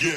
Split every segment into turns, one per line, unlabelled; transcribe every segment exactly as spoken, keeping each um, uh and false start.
Yeah.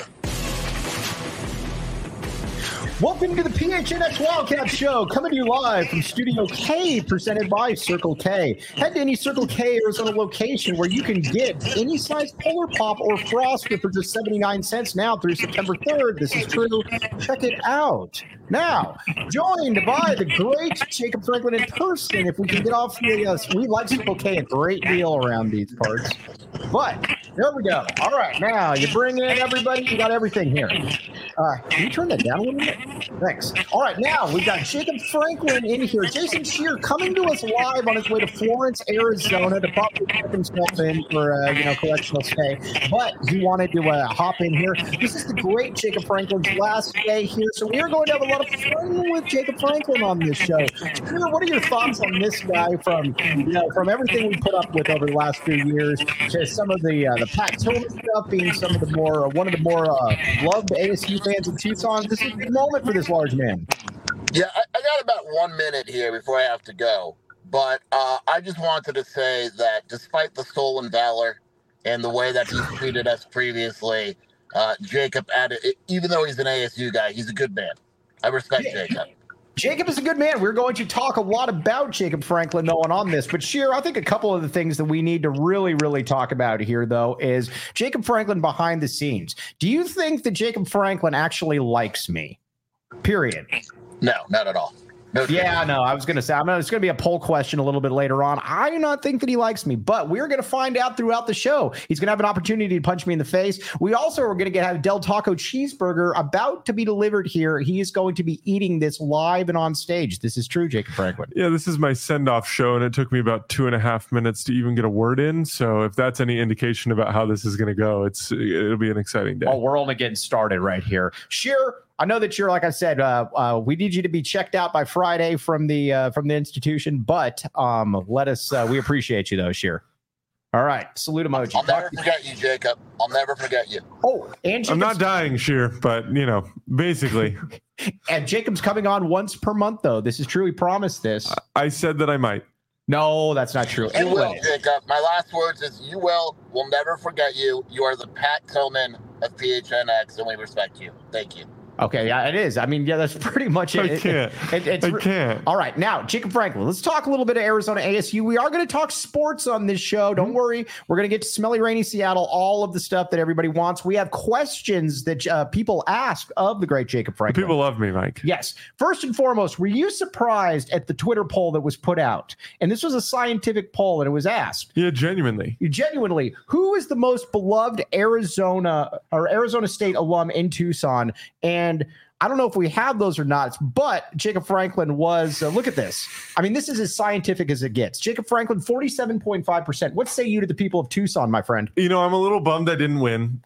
Welcome to the P H N X Wildcat Show, coming to you live from Studio K, presented by Circle K. Head to any Circle K Arizona location where you can get any size Polar Pop or Froster for just seventy-nine cents now through September third. This is true. Check it out. Now, joined by the great Jacob Franklin in person. If we can get off the, uh, we like Circle K a great deal around these parts. But there we go. All right, now you bring in everybody. You got everything here. Uh, can you turn that down a little bit? Thanks. All right, now we've got Jacob Franklin in here. Jason Scheer coming to us live on his way to Florence, Arizona to probably check himself in for, uh, you know, correctional stay. But he wanted to uh, hop in here. This is the great Jacob Franklin's last day here. So we are going to have a lot of fun with Jacob Franklin on this show. Scheer, what are your thoughts on this guy from, you know, from everything we put up with over the last few years to some of the uh, the Pat Tillman stuff being some of the more, uh, one of the more uh, loved A S U fans in Tucson? This is the moment for this large man.
Yeah, I, I got about one minute here before I have to go. But uh, I just wanted to say that despite the stolen valor and the way that he's treated us previously, uh, Jacob, added, even though he's an A S U guy, he's a good man. I respect yeah. Jacob.
Jacob is a good man. We're going to talk a lot about Jacob Franklin, though, and on this. But, Scheer, I think a couple of the things that we need to really, really talk about here, though, is Jacob Franklin behind the scenes. Do you think that Jacob Franklin actually likes me? Period.
No, not at all. No
yeah, no, I was going to say, I'm gonna, it's going to be a poll question a little bit later on. I do not think that he likes me, but we're going to find out throughout the show. He's going to have an opportunity to punch me in the face. We also are going to get have Del Taco cheeseburger about to be delivered here. He is going to be eating this live and on stage. This is true, Jacob Franklin.
Yeah, this is my send-off show, and it took me about two and a half minutes to even get a word in. So if that's any indication about how this is going to go, it's it'll be an exciting day.
Oh, we're only getting started right here. Scheer, I know that you're, like I said, uh, uh, we need you to be checked out by Friday from the uh, from the institution, but um, let us. Uh, we appreciate you, though, Scheer. All right, salute emoji.
I'll never forget you, Jacob. I'll never forget you.
Oh, and Jacob's,
I'm not dying, Scheer, but you know, basically.
And Jacob's coming on once per month, though. This is true. He promised this.
I said that I might.
No, that's not true.
You
anyway.
will, Jacob. My last words is you will. We'll never forget you. You are the Pat Tillman of P H N X, and we respect you. Thank you.
Okay, yeah, it is. I mean, yeah, that's pretty much it.
I can't.
It, it, it's,
I can't.
All right, now, Jacob Franklin, let's talk a little bit of Arizona A S U. We are going to talk sports on this show. Don't mm-hmm. worry. We're going to get to smelly, rainy Seattle, all of the stuff that everybody wants. We have questions that uh, people ask of the great Jacob Franklin.
People love me, Mike.
Yes. First and foremost, were you surprised at the Twitter poll that was put out? And this was a scientific poll, and it was asked.
Yeah, genuinely.
Genuinely. Who is the most beloved Arizona or Arizona State alum in Tucson? And I don't know if we have those or not, but Jacob Franklin was, uh, look at this. I mean, this is as scientific as it gets. Jacob Franklin, forty-seven point five percent. What say you to the people of Tucson, my friend?
You know, I'm a little bummed I didn't win.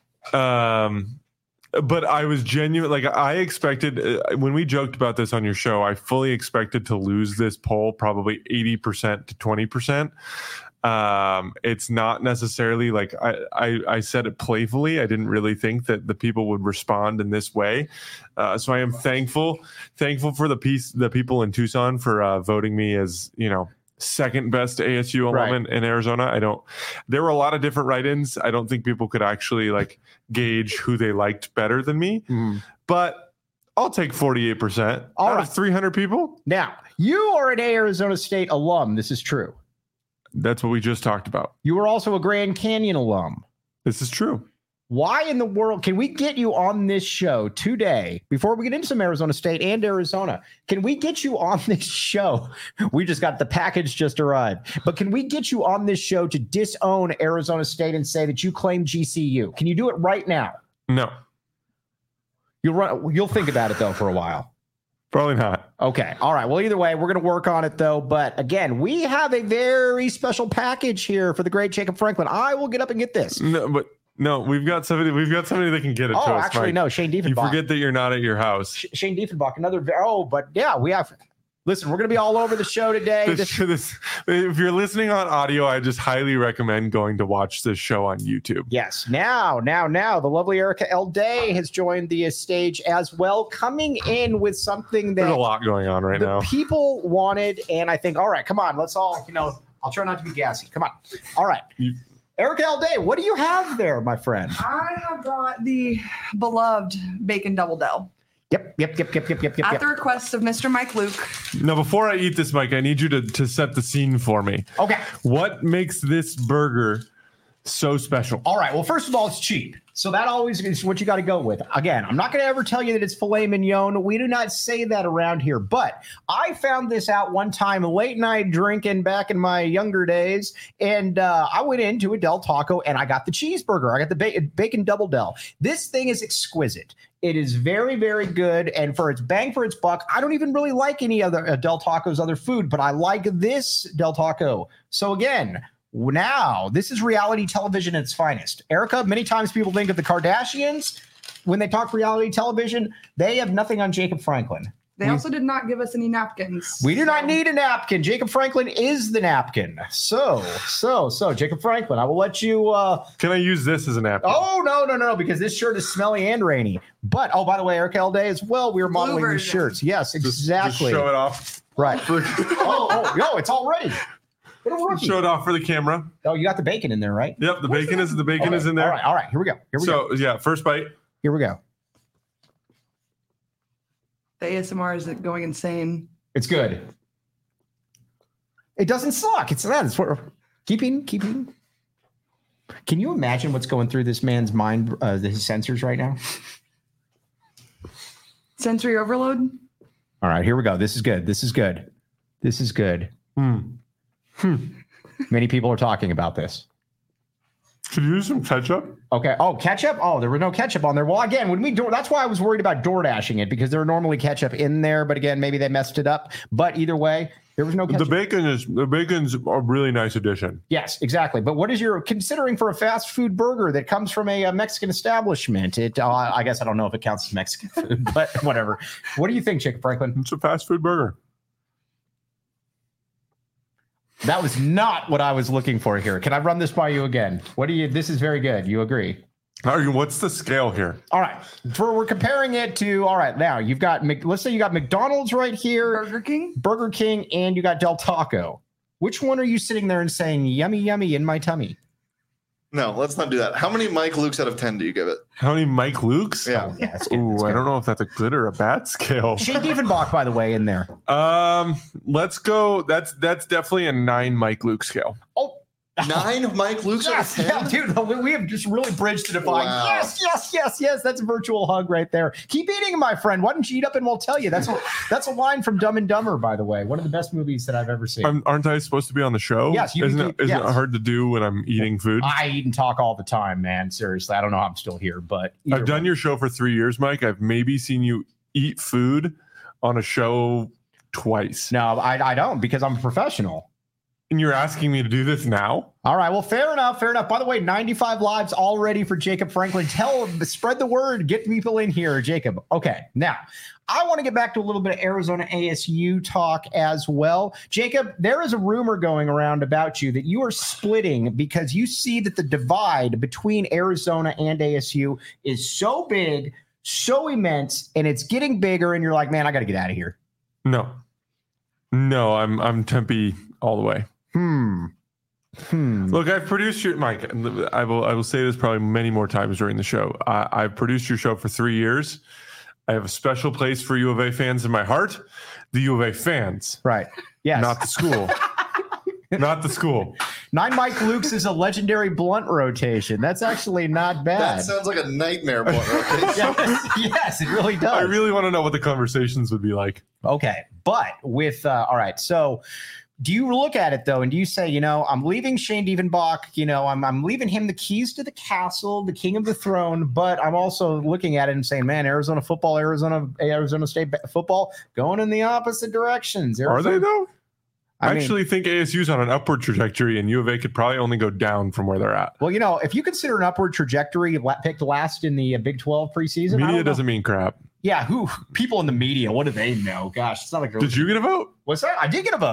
Um, but I was genuine. Like I expected uh, when we joked about this on your show, I fully expected to lose this poll, probably eighty percent to twenty percent. Um, it's not necessarily like I, I, I said it playfully. I didn't really think that the people would respond in this way. Uh, so I am thankful, thankful for the piece, the people in Tucson for uh, voting me as, you know, second best A S U alum
right.
in, in Arizona. I don't, there were a lot of different write-ins. I don't think people could actually like gauge who they liked better than me, mm. but I'll take forty-eight percent
All
out
right.
of three hundred people.
Now, you are an Arizona State alum. This is true.
That's what we just talked about.
You were also a Grand Canyon alum.
This is true.
Why in the world can we get you on this show today before we get into some Arizona State and Arizona? Can we get you on this show? We just got the package just arrived, but can we get you on this show to disown Arizona State and say that you claim G C U? Can you do it right now?
No.
You'll run. You'll think about it though for a while.
Probably not.
Okay. All right. Well, either way, we're going to work on it, though. But again, we have a very special package here for the great Jacob Franklin. I will get up and get this.
No, but no, we've got somebody. We've got somebody that can get it
oh,
to us.
actually,
Mike.
no. Shane Diefenbach.
You forget that you're not at your house.
Sh- Shane Diefenbach, another. Oh, but yeah, we have. Listen, we're going to be all over the show today.
This, this, if you're listening on audio, I just highly recommend going to watch this show on YouTube.
Yes. Now, now, now, the lovely Erica L. Day has joined the stage as well, coming in with something that
there's a lot going on right
the
now.
People wanted, and I think, all right, come on, let's all, you know, I'll try not to be gassy. Come on. All right.
You,
Eric Alday, what do you have there, my friend?
I have brought the beloved bacon double del.
Yep, yep, yep, yep, yep, yep, yep.
At
yep.
the request of Mister Mike Luke.
Now, before I eat this, Mike, I need you to, to set the scene for me.
Okay.
What makes this burger so special?
All right. Well, first of all, it's cheap. So that always is what you got to go with. Again, I'm not going to ever tell you that it's filet mignon. We do not say that around here. But I found this out one time late night drinking back in my younger days. And uh, I went into a Del Taco and I got the cheeseburger. I got the ba- bacon double Del. This thing is exquisite. It is very, very good. And for its bang for its buck, I don't even really like any other uh, Del Taco's other food, but I like this Del Taco. So again, now, this is reality television at its finest. Erica, many times people think of the Kardashians. When they talk reality television, they have nothing on Jacob Franklin.
They
we,
also did not give us any napkins.
We do
so.
not need a napkin. Jacob Franklin is the napkin. So, so, so, Jacob Franklin, I will let you. Uh,
Can I use this as a napkin?
Oh, no, no, no, because this shirt is smelly and rainy. But, oh, by the way, Eric Alday as well. We were modeling these shirts. Yes, exactly.
Just show it off.
Right. oh, oh, no, it's all ready.
Show it off for the camera.
Oh, you got the bacon in there, right?
Yep, the
Where's
bacon
the
is the bacon
okay.
is in there.
All right, all right, here we go. Here we
so,
go.
So yeah, first bite.
Here we go.
The A S M R is going insane.
It's good. It doesn't suck. It's that. It's what keeping keeping. Can you imagine what's going through this man's mind, uh, his sensors right now?
Sensory overload.
All right, here we go. This is good. This is good. This is good.
Hmm.
Hmm. Many people are talking about this.
Could you use some ketchup?
Okay. Oh, ketchup? Oh, there was no ketchup on there. Well, again, when we do, that's why I was worried about door dashing it because there are normally ketchup in there. But again, maybe they messed it up. But either way, there was no ketchup.
The bacon is the bacon's a really nice addition.
Yes, exactly. But what is your considering for a fast food burger that comes from a, a Mexican establishment? It, uh, I guess I don't know if it counts as Mexican food, but whatever. What do you think, Chick Franklin?
It's a fast food burger.
That was not what I was looking for here. Can I run this by you again? What do you? This is very good. You agree?
What's the scale here?
All right. For we're comparing it to. All right. Now you've got. Let's say you got McDonald's right here,
Burger King,
Burger King, and you got Del Taco. Which one are you sitting there and saying yummy, yummy in my tummy?
No, let's not do that. How many Mike Lukes out of ten do you give it?
How many Mike Lukes?
Yeah.
Oh, yeah that's good.
Ooh,
That's
I
good.
don't know if that's a good or a bad scale.
Shane Diefenbach, by the way, in there.
Um, let's go. That's that's definitely a nine Mike Luke scale.
Oh.
Nine Mike Lukes
Yes,
out of ten?
yeah, dude, we have just really bridged the divide.
Wow.
Yes, yes, yes, yes. That's a virtual hug right there. Keep eating, my friend. Why don't you eat up and we'll tell you? That's a, that's a line from Dumb and Dumber, by the way. One of the best movies that I've ever seen.
I'm, aren't I supposed to be on the show?
Yes, you
isn't
can
it?
keep-
Isn't
yes.
it hard to do when I'm eating food?
I eat and talk all the time, man. Seriously, I don't know how I'm still here, but
I've done your show for three years, Mike. I've maybe seen you eat food on a show twice.
No, I, I don't because I'm a professional.
And you're asking me to do this now?
All right. Well, fair enough. Fair enough. By the way, ninety-five lives already for Jacob Franklin. Tell, spread the word. Get people in here, Jacob. Okay. Now, I want to get back to a little bit of Arizona A S U talk as well. Jacob, there is a rumor going around about you that you are splitting because you see that the divide between Arizona and A S U is so big, so immense, and it's getting bigger. And you're like, man, I got to get out of here.
No. No, I'm I'm Tempe all the way.
Hmm. Hmm.
Look, I've produced your Mike. I will. I will say this probably many more times during the show. I, I've produced your show for three years. I have a special place for U of A fans in my heart. The U of A fans,
Right. Yes.
not the school. Not the school.
Nine Mike Lukes is a legendary blunt rotation. That's actually not bad.
That sounds like a nightmare blunt rotation.
yes, yes, it really does.
I really want to know what the conversations would be like.
Okay. But with, uh, all right. So do you look at it though, and do you say, you know, I'm leaving Shane Diefenbach, you know, I'm, I'm leaving him the keys to the castle, the king of the throne, but I'm also looking at it and saying, man, Arizona football, Arizona, Arizona State football going in the opposite directions.
Are
Arizona,
they though? I,
I mean,
actually think A S U's on an upward trajectory, and U of A could probably only go down from where they're at.
well, you know, if you consider an upward trajectory la- picked last in the uh, Big twelve preseason, I
Media
don't know.
doesn't mean crap.
Yeah, who people in the media? What do they know? Gosh, it's not like
Did you get a vote?
What's that? I did get a vote.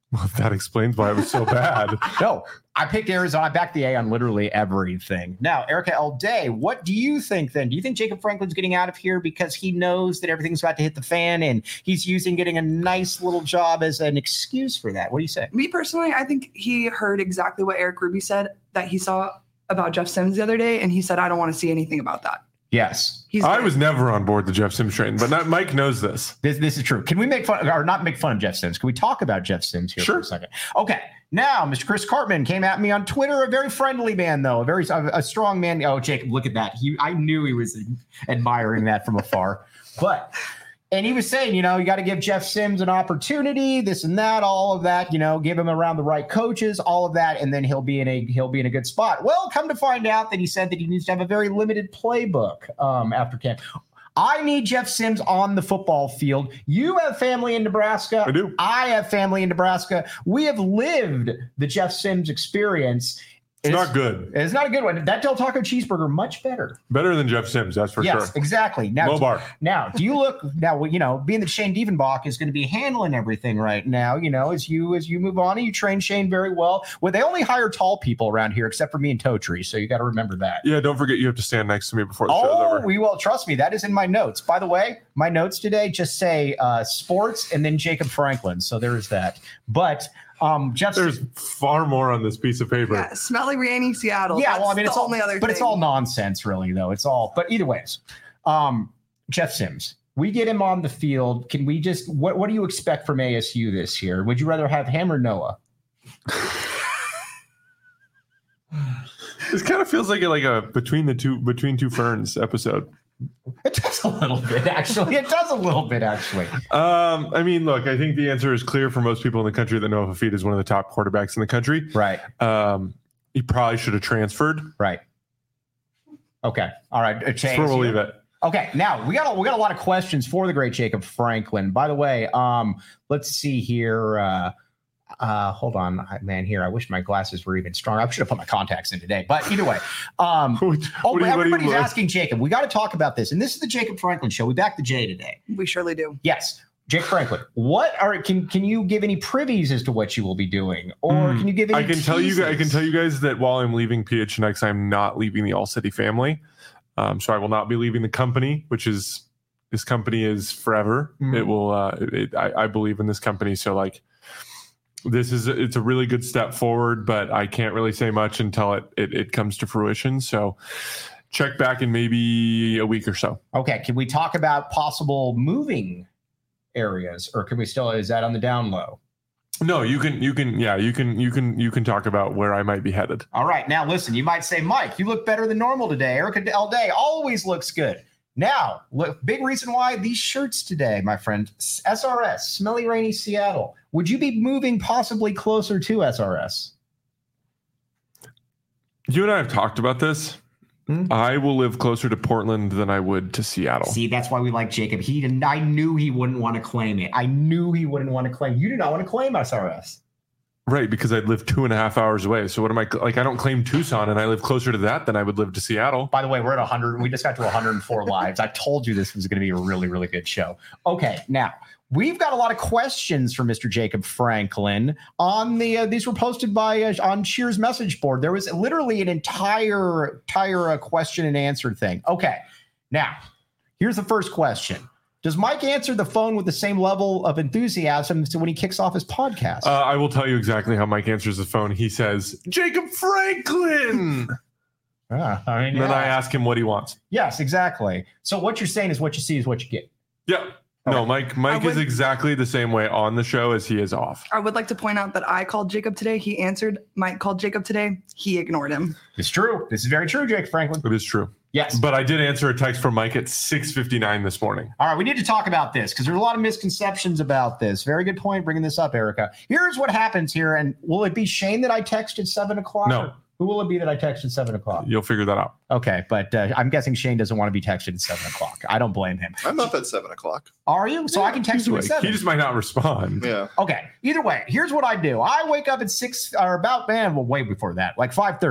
Well, that explains why it was so bad.
No, I picked Arizona. I backed the A on literally everything. Now, Erica L. Day, what do you think then? Do you think Jacob Franklin's getting out of here because he knows that everything's about to hit the fan and he's using getting a nice little job as an excuse for that? What do you say?
Me personally, I think he heard exactly what Eric Ruby said that he saw about Jeff Sims the other day, and he said, I don't want to see anything about that.
Yes.
He's
I
good.
was never on board the Jeff Sims train, but not, Mike knows this.
This this is true. Can we make fun or not make fun of Jeff Sims? Can we talk about Jeff Sims here
Sure.
for a second? Okay. Now, Mister Chris Cartman came at me on Twitter, a very friendly man, though, a very a, a strong man. Oh, Jacob, look at that. He I knew he was admiring that from afar. But and he was saying, you know, you got to give Jeff Sims an opportunity, this and that, all of that, you know, give him around the right coaches, all of that, and then he'll be in a he'll be in a good spot. Well, come to find out that he said that he needs to have a very limited playbook um, after camp. I need Jeff Sims on the football field. You have family in Nebraska.
I do.
I have family in Nebraska. We have lived the Jeff Sims experience.
It's not good.
It's not a good one. That Del Taco cheeseburger, much better.
Better than Jeff Sims, that's for
yes,
sure.
exactly. Now,
Low bar.
now, do you look now? You know, being that Shane Dievenbach is going to be handling everything right now. You know, as you as you move on, and you train Shane very well. Well, they only hire tall people around here, except for me and Totri. So you got to remember that.
Yeah, don't forget you have to stand next to me before the show's
Oh,
over.
we will. Trust me, that is in my notes. By the way, my notes today just say uh, sports and then Jacob Franklin. So there is that. But um, Jeff,
There's far more on this piece of paper.
Yeah, smelly rainy Seattle.
yeah,
That's
well, I mean,
the
it's all,
only other
but
thing.
it's all nonsense, really, though. It's all, but either ways, um, Jeff Sims. We get him on the field. Can we just? What What do you expect from A S U this year? Would you rather have him or Noah?
This kind of feels like a, like a between the two between two ferns episode.
It does a little bit, actually. It does a little bit, actually.
Um, I mean, look, I think the answer is clear for most people in the country that Noah Fafita is one of the top quarterbacks in the country.
Right.
Um, he probably should have transferred.
Right. Okay. All right.
That's where we'll leave it.
Okay, now we got a, we got a lot of questions for the great Jacob Franklin. By the way, um, let's see here. Uh, uh, hold on, I- man. Here, I wish my glasses were even stronger. I should have put my contacts in today. But either way, um,
What-
oh,
what do you- what do you
everybody's
look-
asking Jacob. We got to talk about this, and this is the Jacob Franklin show. We back the J today.
We surely do.
Yes, Jake Franklin. What are can can you give any privies as to what you will be doing, or
Mm,
can you give any?
I can tell you. I can
teases?
tell you guys that while I'm leaving P H N X, I'm not leaving the All City family. Um, so I will not be leaving the company, which is this company is forever.
Mhm.
It will. Uh, it, I, I believe in this company. So like, this is it's a really good step forward, but I can't really say much until it it, it comes to fruition. So check back in maybe a week or so.
Okay, can we talk about possible moving areas, or can we still? Is that on the down low?
No, you can you can yeah you can you can you can talk about where I might be headed.
All right. Now, listen, you might say, Mike, you look better than normal today. Erica L. Day always looks good. Now, look, big reason why these shirts today, my friend, S R S, Smelly Rainy Seattle. Would you be moving possibly closer to S R S?
You and I have talked about this.
Hmm?
I will live closer to Portland than I would to Seattle.
See, that's why we like Jacob. He didn't, I knew he wouldn't want to claim it. I knew he wouldn't want to claim. You do not want to claim S R S.
Right, because I'd live two and a half hours away. So what am I like? I don't claim Tucson, and I live closer to that than I would live to Seattle.
By the way, we're at one hundred. We just got to one hundred four lives. I told you this was going to be a really, really good show. Okay, now we've got a lot of questions for Mister Jacob Franklin on the. Uh, these were posted by uh, on Cheers message board. There was literally an entire, entire uh, question and answer thing. Okay, now here's the first question. Does Mike answer the phone with the same level of enthusiasm when he kicks off his podcast?
Uh, I will tell you exactly how Mike answers the phone. He says, Jacob Franklin.
Ah, I mean,
And then I
yeah.
ask him what he wants.
Yes, exactly. So what you're saying is what you see is what you get.
Yeah. No, Mike Mike
I would-
is exactly the same way on the show as he is off.
I would like to point out that I called Jacob today. He answered. Mike called Jacob today. He ignored him.
It's true. This is very true, Jake Franklin.
It is true.
Yes.
But I did answer a text from Mike at six fifty-nine this morning.
All right, we need to talk about this because there's a lot of misconceptions about this. Very good point bringing this up, Erica. Here's what happens here. And will it be Shane that I texted seven o'clock?
No.
Who will it be that I texted seven o'clock?
You'll figure that out.
Okay, but uh, I'm guessing Shane doesn't want to be texted at seven o'clock. I don't blame him.
I'm up at seven o'clock.
Are you? So I can text you at
He
seven.
just might not respond.
Yeah.
Okay. Either way, here's what I do. I wake up at six or about man, well, way before that, like five thirty.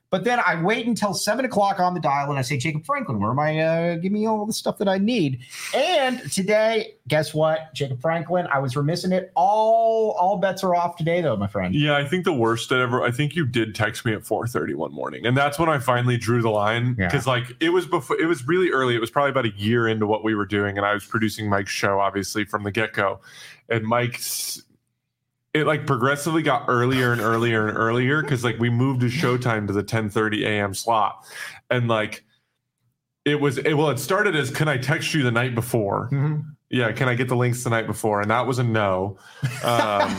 But then I wait until seven o'clock on the dial and I say, Jacob Franklin, where am I? Uh, give me all the stuff that I need. And today, guess what? Jacob Franklin, I was remiss in it. All all bets are off today, though, my friend.
Yeah, I think the worst that ever, I think you did text me at four thirty one morning. And that's when I finally drew the line. Because, yeah. like, it was before, it was really early. It was probably about a year into what we were doing. And I was producing Mike's show, obviously, from the get go. And Mike's, it like progressively got earlier and earlier and earlier because like we moved his showtime to the ten thirty a.m. slot, and like it was it, well it started as can I text you the night before? Mm-hmm. Yeah, can I get the links the night before? And that was a no. Um,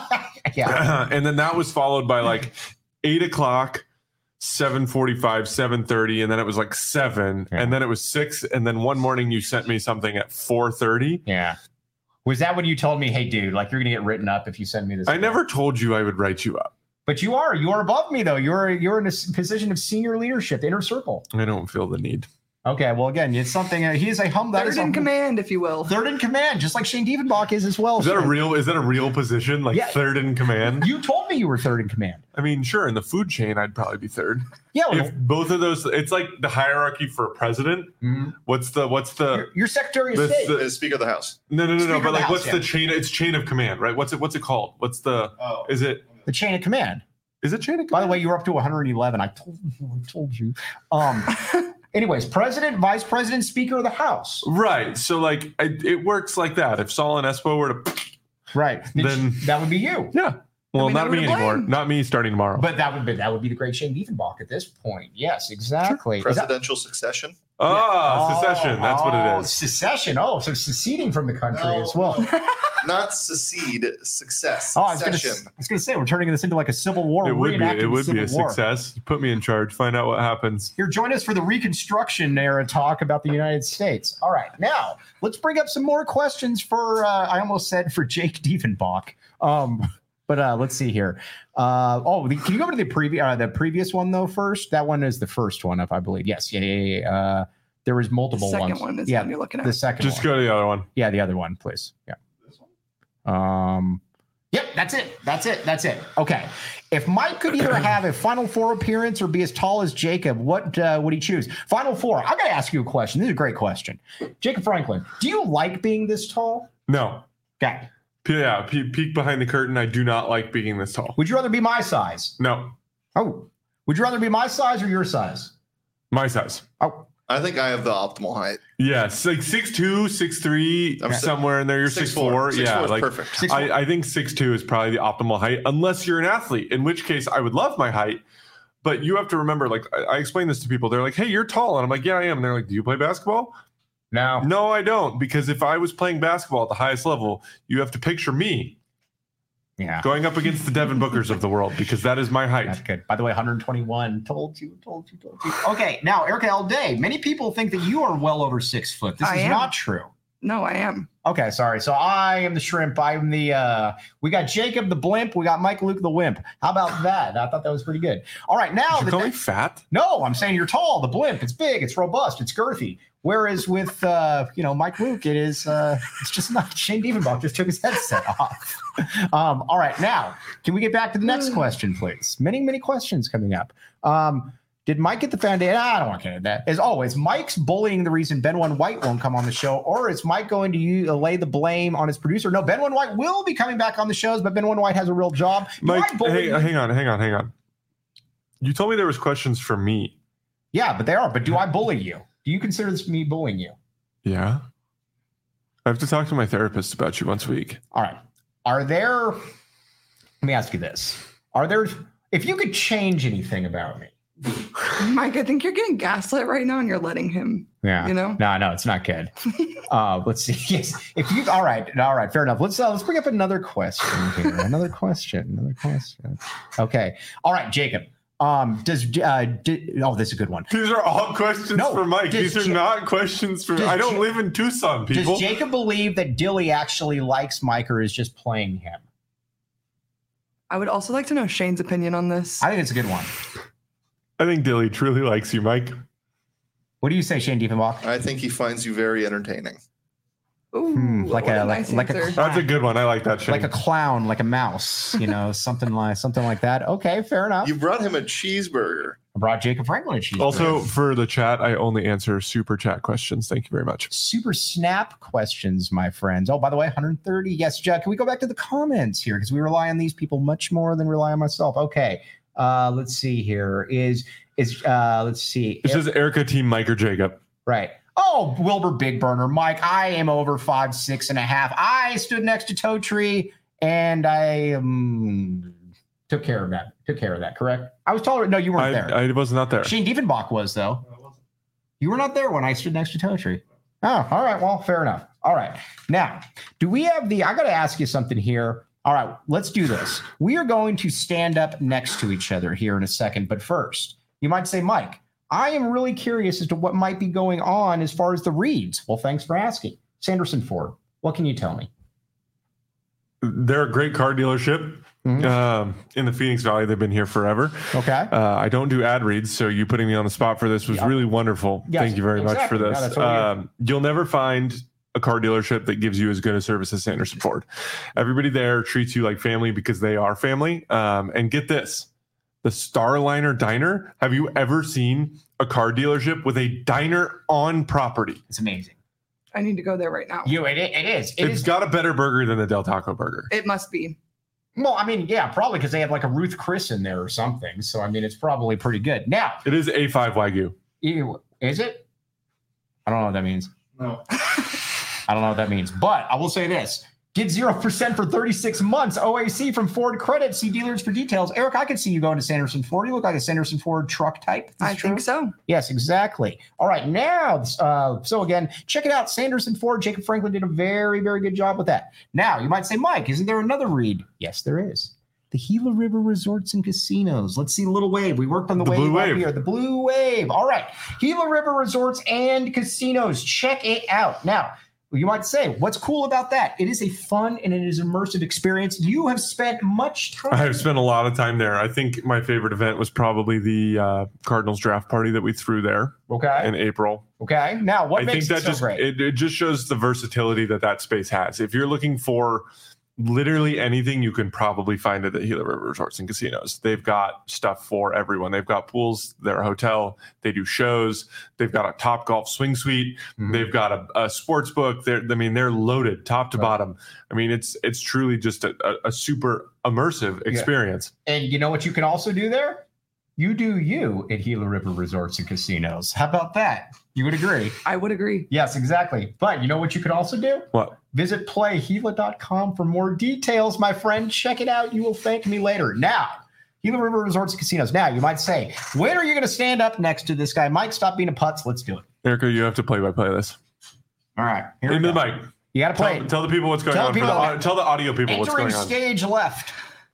yeah, and then that was followed by like eight o'clock, seven forty-five, seven thirty, and then it was like seven, yeah. and then it was six, and then one morning you sent me something at four thirty.
Yeah. Was that when you told me, hey, dude, like you're going to get written up if you send me this?
I never told you I would write you up.
But you are. You are above me, though. You're you're in a position of senior leadership, the inner circle.
I don't feel the need.
Okay, well, again, it's something. Uh, he is a hum.
Third in command, if you will.
Third in command, just like Shane Diefenbach is as well.
Is that a real? Is that a real position? Like yeah. third in command?
You told me you were third in command.
I mean, sure. In the food chain, I'd probably be third.
Yeah. Well,
if both of those, it's like the hierarchy for a president. Mm-hmm. What's the? What's the?
Your, your Secretary of
the,
State,
the, the Speaker of the House.
No, no, no,
Speaker
no. But like,
House,
what's
yeah.
the chain? It's chain of command, right? What's it? What's it called? What's the? Oh. Is it
the chain of command?
Is it chain of command?
By the way, you were up to one hundred eleven. I told you. I told you. Um. Anyways, president, vice president, speaker of the House.
Right. So, like, I, it works like that. If Saul and Espo were to,
right,
then
that would be you.
Yeah. Well, I mean, not me anymore. Not me starting tomorrow.
But that would be that would be the great Shane Diefenbach at this point. Yes, exactly.
Sure. Presidential that, succession.
Oh, yeah. secession. That's
oh,
what it is.
Secession. Oh, so seceding from the country no, as well.
Not secede, success.
Oh, I was going to say we're turning this into like a civil war.
It would be. It would be a
war.
success. Put me in charge. Find out what happens.
Here, join us for the Reconstruction era talk about the United States. All right, now let's bring up some more questions for. Uh, I almost said for Jake Diefenbach. Um, But uh, let's see here. Uh, oh, the, can you go to the previous uh, the previous one though first? That one is the first one, if I believe. Yes, yeah, yeah, yeah. Uh, there was multiple
the second
ones.
One is
yeah,
one you're looking at.
The second.
Just
one.
go to the other one.
Yeah, the other one, please. Yeah. This one. Um. Yep, that's it. That's it. That's it. Okay. If Mike could either have a Final Four appearance or be as tall as Jacob, what uh, would he choose? Final Four. I got to ask you a question. This is a great question. Jacob Franklin, do you like being this tall?
No.
Okay.
Yeah, peek behind the curtain. I do not like being this tall.
Would you rather be my size?
No.
Oh. Would you rather be my size or your size?
My size.
Oh.
I think I have the optimal height.
Yes, like six two, six three, I'm somewhere in there. You're six four. Yeah, like
perfect.
I, I think six two is probably the optimal height, unless you're an athlete, in which case I would love my height. But you have to remember, like I, I explain this to people. They're like, hey, you're tall. And I'm like, yeah, I am. And they're like, do you play basketball?
No.
No, I don't. Because if I was playing basketball at the highest level, you have to picture me.
Yeah.
Going up against the Devin Bookers of the world, because that is my height.
That's good. By the way, one twenty-one. Told you, told you, told you. Okay, now, Erica L. Day. Many people think that you are well over six foot. This
I
is
am.
not true.
No, I am.
Okay, sorry. So I am the shrimp. I'm the, uh, we got Jacob the blimp. We got Mike Luke the wimp. How about that? I thought that was pretty good. All right, now.
Did you
the,
call me fat?
No, I'm saying you're tall. The blimp. It's big. It's robust. It's girthy. Whereas with, uh, you know, Mike Luke, it is, uh, it's just not. Shane Diefenbach just took his headset off. Um, all right, now, can we get back to the next question, please? Many, many questions coming up. Um, Did Mike get the foundation? I don't want to get into that. As always, Mike's bullying the reason Ben One White won't come on the show, or is Mike going to use, uh, lay the blame on his producer? No, Ben One White will be coming back on the shows, but Ben One White has a real job.
Mike, hey, hang on, hang on, hang on. You told me there was questions for me.
Yeah, but they are. But do I bully you? Do you consider this me bullying you?
Yeah. I have to talk to my therapist about you once a week.
All right. Are there, let me ask you this. Are there, if you could change anything about me,
Mike, I think you're getting gaslit right now and you're letting him.
Yeah.
You know?
No, no, it's not good. uh, let's see. Yes. If you all right, all right, fair enough. Let's uh, let's bring up another question here. Another question. Another question. Okay. All right, Jacob. Um, does uh did, oh this is a good one.
These are all questions
no,
for Mike. These are ja- not questions for I don't ja- live in Tucson, people.
Does Jacob believe that Dilly actually likes Mike or is just playing him?
I would also like to know Shane's opinion on this.
I think it's a good one.
I think Dilly truly likes you, Mike.
What do you say, Shane Diefenbach?
I think he finds you very entertaining.
Ooh,
hmm, like a, a
nice
like, like a
that's a good one. I like that, Shane.
Like a clown, like a mouse, you know, something like something like that. Okay, fair enough.
You brought him a cheeseburger.
I brought Jacob Franklin a cheeseburger.
Also, for the chat, I only answer super chat questions. Thank you very much.
Super snap questions, my friends. Oh, by the way, one hundred thirty. Yes, Jack. Can we go back to the comments here? Because we rely on these people much more than rely on myself. Okay. Uh, let's see here. Is, is uh, let's see.
It says Erica Team Mike or Jacob.
Right. Oh, Wilbur Big Burner. Mike, I am over five, six and a half. I stood next to Toe Tree and I um, took care of that. Took care of that, correct? I was taller. No, you weren't
I,
there.
I was not there.
Shane Diefenbach was, though. You were not there when I stood next to Toe Tree. Oh, all right. Well, fair enough. All right. Now, do we have the, I got to ask you something here. All right, let's do this. We are going to stand up next to each other here in a second. But first, you might say, Mike, I am really curious as to what might be going on as far as the reads. Well, thanks for asking. Sanderson Ford, what can you tell me?
They're a great car dealership. Mm-hmm. Um, in the Phoenix Valley. They've been here forever.
Okay.
Uh, I don't do ad reads, so you putting me on the spot for this was
Yep.
really wonderful.
Yes,
Thank you very
exactly.
much for
No,
this.
that's what we do.
um, you'll never find a car dealership that gives you as good a service as Sanderson Ford. Everybody there treats you like family because they are family. Um, and get this, the Starliner Diner. Have you ever seen a car dealership with a diner on property?
It's amazing.
I need to go there right now.
You, it, it is. It
It's
is.
got a better burger than the Del Taco burger.
It must be.
Well, I mean, yeah, probably because they have like a Ruth Chris in there or something. So, I mean, it's probably pretty good. Now,
It is A five Wagyu.
you- is it? I don't know what that means.
No.
I don't know what that means, but I will say this. Get zero percent for thirty-six months. O A C from Ford Credit. See dealers for details. Eric, I can see you going to Sanderson Ford. You look like a Sanderson Ford truck type. Is
I
this true?
think so.
Yes, exactly. All right, now, uh, so again, check it out. Sanderson Ford. Jacob Franklin did a very, very good job with that. Now, you might say, Mike, isn't there another read? Yes, there is. The Gila River Resorts and Casinos. Let's see, Little Wave. We worked on the,
The
wave
Blue
up
Wave.
here. The Blue Wave. All right. Gila River Resorts and Casinos. Check it out. Now, you might say, what's cool about that? It is a fun and it is immersive experience. You have spent much time.
I've spent a lot of time there. I think my favorite event was probably the uh, Cardinals draft party that we threw there
Okay.
in April.
Okay. Now, what
I
makes
think that
it so
just
great?
it, it just shows the versatility that that space has. If you're looking for literally anything, you can probably find it at Gila River Resorts and Casinos. They've got stuff for everyone. They've got pools, they're a hotel, they do shows, they've got a Top Golf swing suite,
Mhm.
they've got a, a sports book. They're, I mean, they're loaded top to
Right.
bottom. I mean, it's it's truly just a, a, a super immersive experience.
And you know what you can also do there? You do you at Gila River Resorts and Casinos. How about that? You would agree?
I would agree.
Yes, exactly. But you know what you can also do?
What?
Visit play gila dot com for more details, my friend. Check it out. You will thank me later. Now, Gila River Resorts and Casinos. Now, you might say, when are you going to stand up next to this guy? Mike, stop being a putz. Let's do it.
Erica, you have to play by play this.
All right. Here we
Into the
go.
mic.
You got to play
Tell,
it.
tell the people what's going
Tell
on.
the
For the,
people-
au- tell the audio people what's
Entering
going on.
stage left.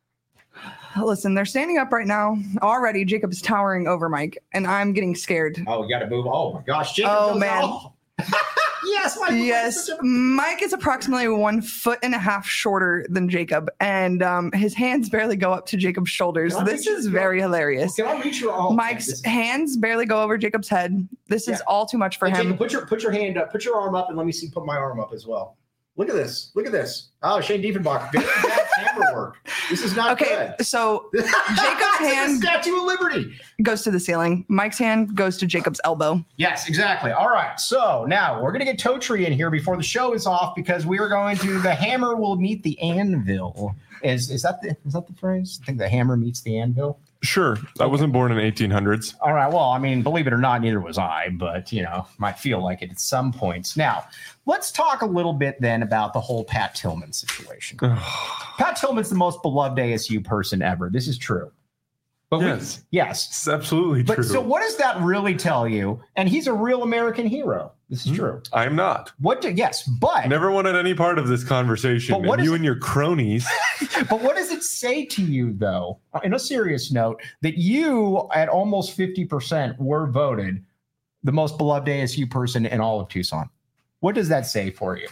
Listen, they're standing up right now. Already, Jacob is towering over Mike, and I'm getting scared.
Oh, you got to move. Oh, my gosh. Jacob
Oh,
goes
man.
out. Yes, Mike.
Yes, Mike is approximately one foot and a half shorter than Jacob, and um, his hands barely go up to Jacob's shoulders.
Can I
This
reach
is
your-
very hilarious.
Can I reach your arm?
Mike's hands barely go over Jacob's head. This is
Yeah.
all too much for
Hey,
him.
Jacob, put your put your hand up, put your arm up, and let me see. Put my arm up as well. Look at this. Look at this. Oh, Shane Diefenbach. Very bad camera work. This is not
Okay,
good.
so
Jacob's
Jacob's hand
Statue of Liberty.
goes to the ceiling. Mike's hand goes to Jacob's elbow.
Yes, exactly. All right. So now we're gonna get Toe Tree in here before the show is off because we are going to the hammer will meet the anvil. Is is that the is that the phrase? I think the hammer meets the anvil.
Sure. I wasn't born in eighteen hundreds.
All right. Well, I mean, believe it or not, neither was I, but you know, might feel like it at some points. Now, let's talk a little bit then about the whole Pat Tillman situation. Pat Tillman's the most beloved A S U person ever. This is true. But
Yes.
we, yes.
It's absolutely
But
true.
so what does that really tell you? And he's a real American hero. This is
Hmm.
true.
I'm not.
What do, yes, but
Never wanted any part of this conversation.
But what
And
is
you
it-
and your cronies.
but what does it say to you though, in a serious note, that you at almost fifty percent were voted the most beloved A S U person in all of Tucson? What does that say for you?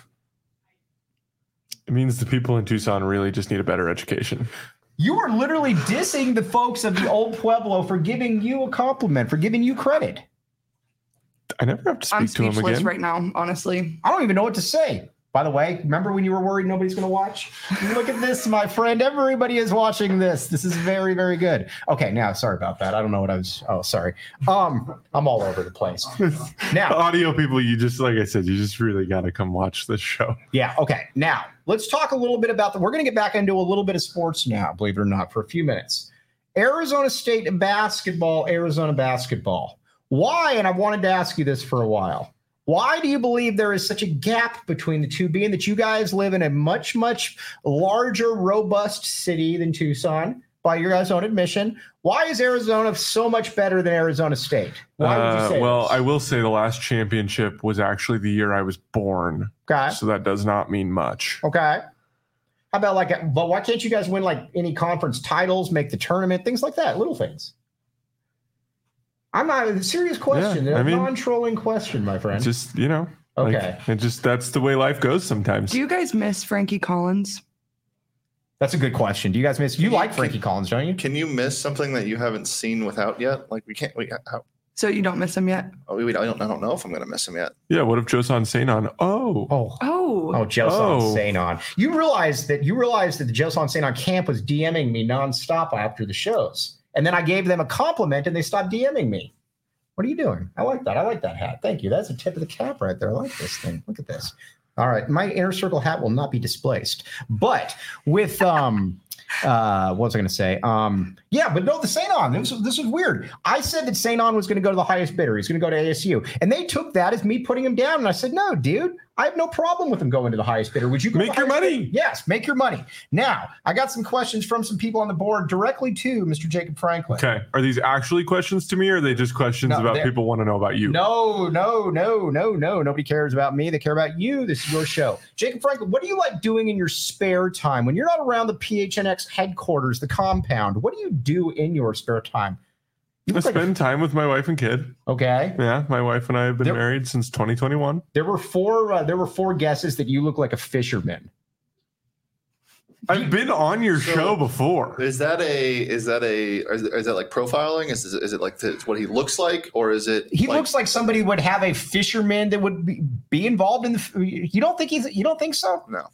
It means the people in Tucson really just need a better education.
You are literally dissing the folks of the old Pueblo for giving you a compliment, for giving you credit.
I never have to
I'm
speak to him
speechless
again.
right now, honestly.
I don't even know what to say. By the way, remember when you were worried nobody's going to watch? Look at this, my friend. Everybody is watching this. This is very, very good. Okay, now, sorry about that. I don't know what I was. Oh, sorry. Um, I'm all over the place. Now,
audio people, you just, like I said, you just really got to come watch this show.
Yeah. Okay. Now, let's talk a little bit about the. We're going to get back into a little bit of sports now, believe it or not, for a few minutes. Arizona State basketball, Arizona basketball. Why? And I've wanted to ask you this for a while. Why do you believe there is such a gap between the two, being that you guys live in a much, much larger, robust city than Tucson, by your guys' own admission? Why is Arizona so much better than Arizona State? Why would you say
uh, Well,
this?
I will say the last championship was actually the year I was born.
Okay.
So that does not mean much.
Okay. How about like, but why can't you guys win like any conference titles, make the tournament, things like that, little things? I'm not a serious question.
Yeah,
a
I mean,
non-trolling question, my friend.
Just, you know,
Okay.
like, it just, that's the way life goes sometimes.
Do you guys miss Frankie Collins?
That's a good question. Do you guys miss? You like Frankie Collins, don't you?
Can you miss something that you haven't seen without yet? Like we can't. We, how,
So you don't miss him yet?
oh, we, I don't. I don't know if I'm going to miss him yet.
Yeah. What if Josan Seinon? Oh.
Oh.
Oh.
Oh, Josan
Oh.
Seinon. You realize that you realize that the Josan Seinon camp was DMing me nonstop after the shows. And then I gave them a compliment and they stopped DMing me. What are you doing? I like that. I like that hat. Thank you. That's a tip of the cap right there. I like this thing. Look at this. All right. My inner circle hat will not be displaced. But with um uh what was I going to say? Um yeah, but no, the Seinon. This was, this was weird. I said that Seinon was going to go to the highest bidder. He's going to go to A S U. And they took that as me putting him down. And I said, no, dude, I have no problem with him going to the highest bidder. Would you go
Make
to the
your
highest
money.
bidder? Yes, make your money. Now, I got some questions from some people on the board directly to Mister Jacob Franklin.
Okay. Are these actually questions to me, or are they just questions
No,
about
they're-
people want to know about you?
No, no, no, no, no. Nobody cares about me. They care about you. This is your show. Jacob Franklin, what do you like doing in your spare time? When you're not around the P H N X headquarters, the compound, what do you do in your spare time? You
I
look like a-
spend time with my wife and kid.
okay.
Yeah. My wife and I have been
There-
married since twenty twenty-one.
There were four uh, there were four guesses that you look like a fisherman.
I've been on your
So-
show before.
Is that a? Is that a? Is, is that like profiling? Is is it like the, what he looks like, or is it?
He
like,
looks like somebody would have a fisherman that would be, be involved in the you don't think he's you don't think so?
No,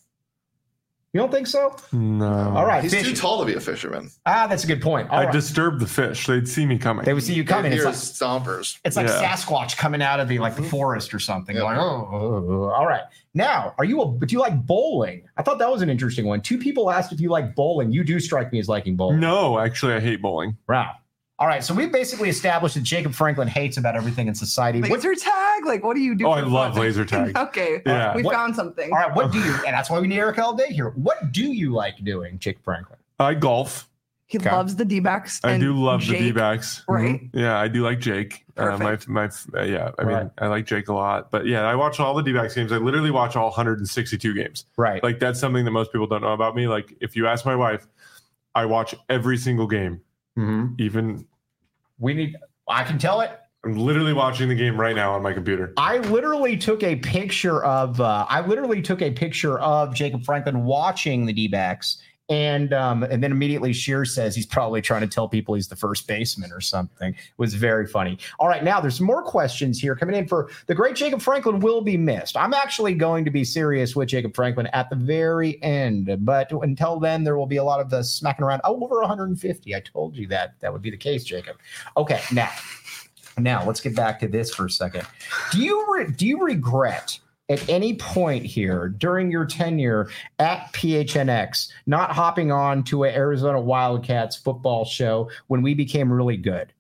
You don't think so?
No.
All right.
he's
fish-
too tall to be a fisherman.
Ah, that's a good point. All
I
right.
disturbed the fish. They'd see me coming.
They would see you coming.
Here
It's
is
like,
stompers.
it's like
Yeah.
Sasquatch coming out of the like the forest or something.
Yep.
Like, oh, oh, oh. All right. Now, are you a do you like bowling? I thought that was an interesting one. Two people asked if you like bowling. You do strike me as liking bowling.
No, actually, I hate bowling.
Wow. All right. So we basically established that Jacob Franklin hates about everything in society. What-
Laser tag? Like, what do you do?
Oh,
for
I love
fun?
laser tag.
Okay.
Yeah.
We
What-
found something.
all right. What do you and that's why we need Eric all day here. What do you like doing, Jacob Franklin?
I golf.
He
Okay.
loves the D-backs.
I
and
do love
Jake,
the D-backs.
Right?
Yeah, I do like Jake. Uh, my
Perfect.
my uh, yeah, I mean,
Right.
I like Jake a lot. But yeah, I watch all the D-backs games. I literally watch all one hundred sixty-two games.
Right.
Like that's something that most people don't know about me. Like if you ask my wife, I watch every single game.
Mhm.
Even
We need I can tell it.
I'm literally watching the game right now on my computer.
I literally took a picture of uh, I literally took a picture of Jacob Franklin watching the D-backs, and um, and then immediately Shear says he's probably trying to tell people he's the first baseman or something. It was very funny. All right, now there's more questions here coming in for the great Jacob Franklin will be missed. I'm actually going to be serious with Jacob Franklin at the very end, but until then there will be a lot of the smacking around. Oh, over one hundred fifty. I told you that that would be the case, Jacob. Okay, now. Now let's get back to this for a second. Do you re- do you regret at any point here during your tenure at P H N X not hopping on to an Arizona Wildcats football show when we became really good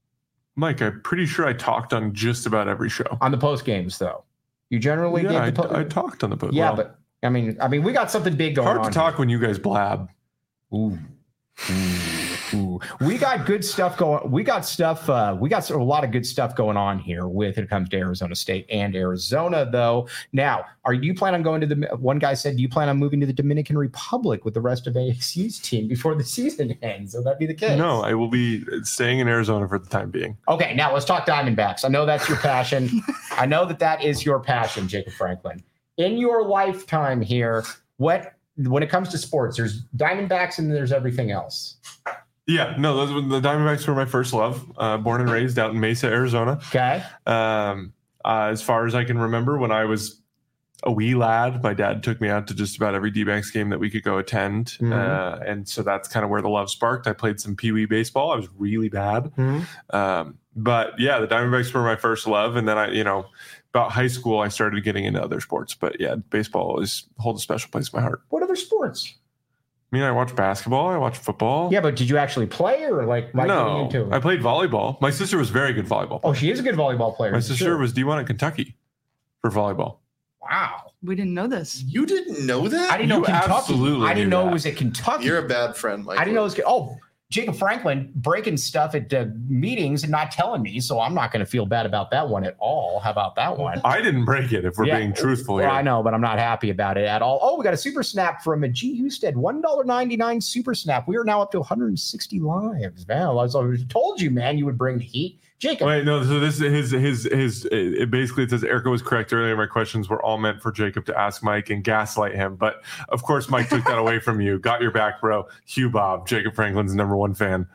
Mike, I'm pretty sure I talked on just about every show.
on the post games though? You generally
Yeah, I,
gave the po-
I talked on the post.
yeah,
well,
but I mean, I mean, we got something big going
hard
on.
to talk when you guys blab.
Here. Ooh. Ooh, ooh. We got good stuff going. We got stuff. Uh, we got a lot of good stuff going on here with it comes to Arizona State and Arizona, though. Now, are you plan on going to the? One guy said, "Do you plan on moving to the Dominican Republic with the rest of A S U's team before the season ends?" Will that be the case?
No, I will be staying in Arizona for the time being.
Okay, now let's talk Diamondbacks. I know that's your passion. I know that that is your passion, Jacob Franklin. In your lifetime here, what when it comes to sports, there's Diamondbacks and there's everything else.
Yeah, no, those were, the Diamondbacks were my first love. Uh, born and raised out in Mesa, Arizona.
Okay.
Um, uh, as far as I can remember, when I was a wee lad, my dad took me out to just about every D-backs game that we could go attend.
Mhm.
Uh, and so that's kind of where the love sparked. I played some Pee Wee baseball. I was really bad.
Mhm.
Um, but yeah, the Diamondbacks were my first love. And then I, you know, about high school, I started getting into other sports. But yeah, baseball always holds a special place in my heart.
What other sports?
I mean, I watch basketball. I watch football.
Yeah, but did you actually play or like by getting
no,
into it?
I played volleyball. My sister was very good volleyball.
Oh, she is a good volleyball player.
My sister
Sure.
was D one at Kentucky for volleyball.
Wow.
We didn't know this.
You didn't know that?
I didn't know
You
Kentucky.
absolutely
I didn't
knew
know
that.
it was at Kentucky.
You're a bad friend, Mike.
I didn't know it was. Oh, Jacob Franklin breaking stuff at uh, meetings and not telling me, so I'm not going to feel bad about that one at all. How about that one?
I didn't break it, if we're
Yeah.
being truthful
Well,
here.
I know, but I'm not happy about it at all. Oh, we got a super snap from a G. Husted, one dollar and ninety-nine cents super snap. We are now up to one hundred sixty lives. Man, I was- I told you, man, you would bring the heat. Jacob.
Wait, no. So this is his his his. It basically it says Erica was correct earlier. My questions were all meant for Jacob to ask Mike and gaslight him, but of course Mike took that away from you. Got your back, bro. Hugh Bob, Jacob Franklin's number one fan.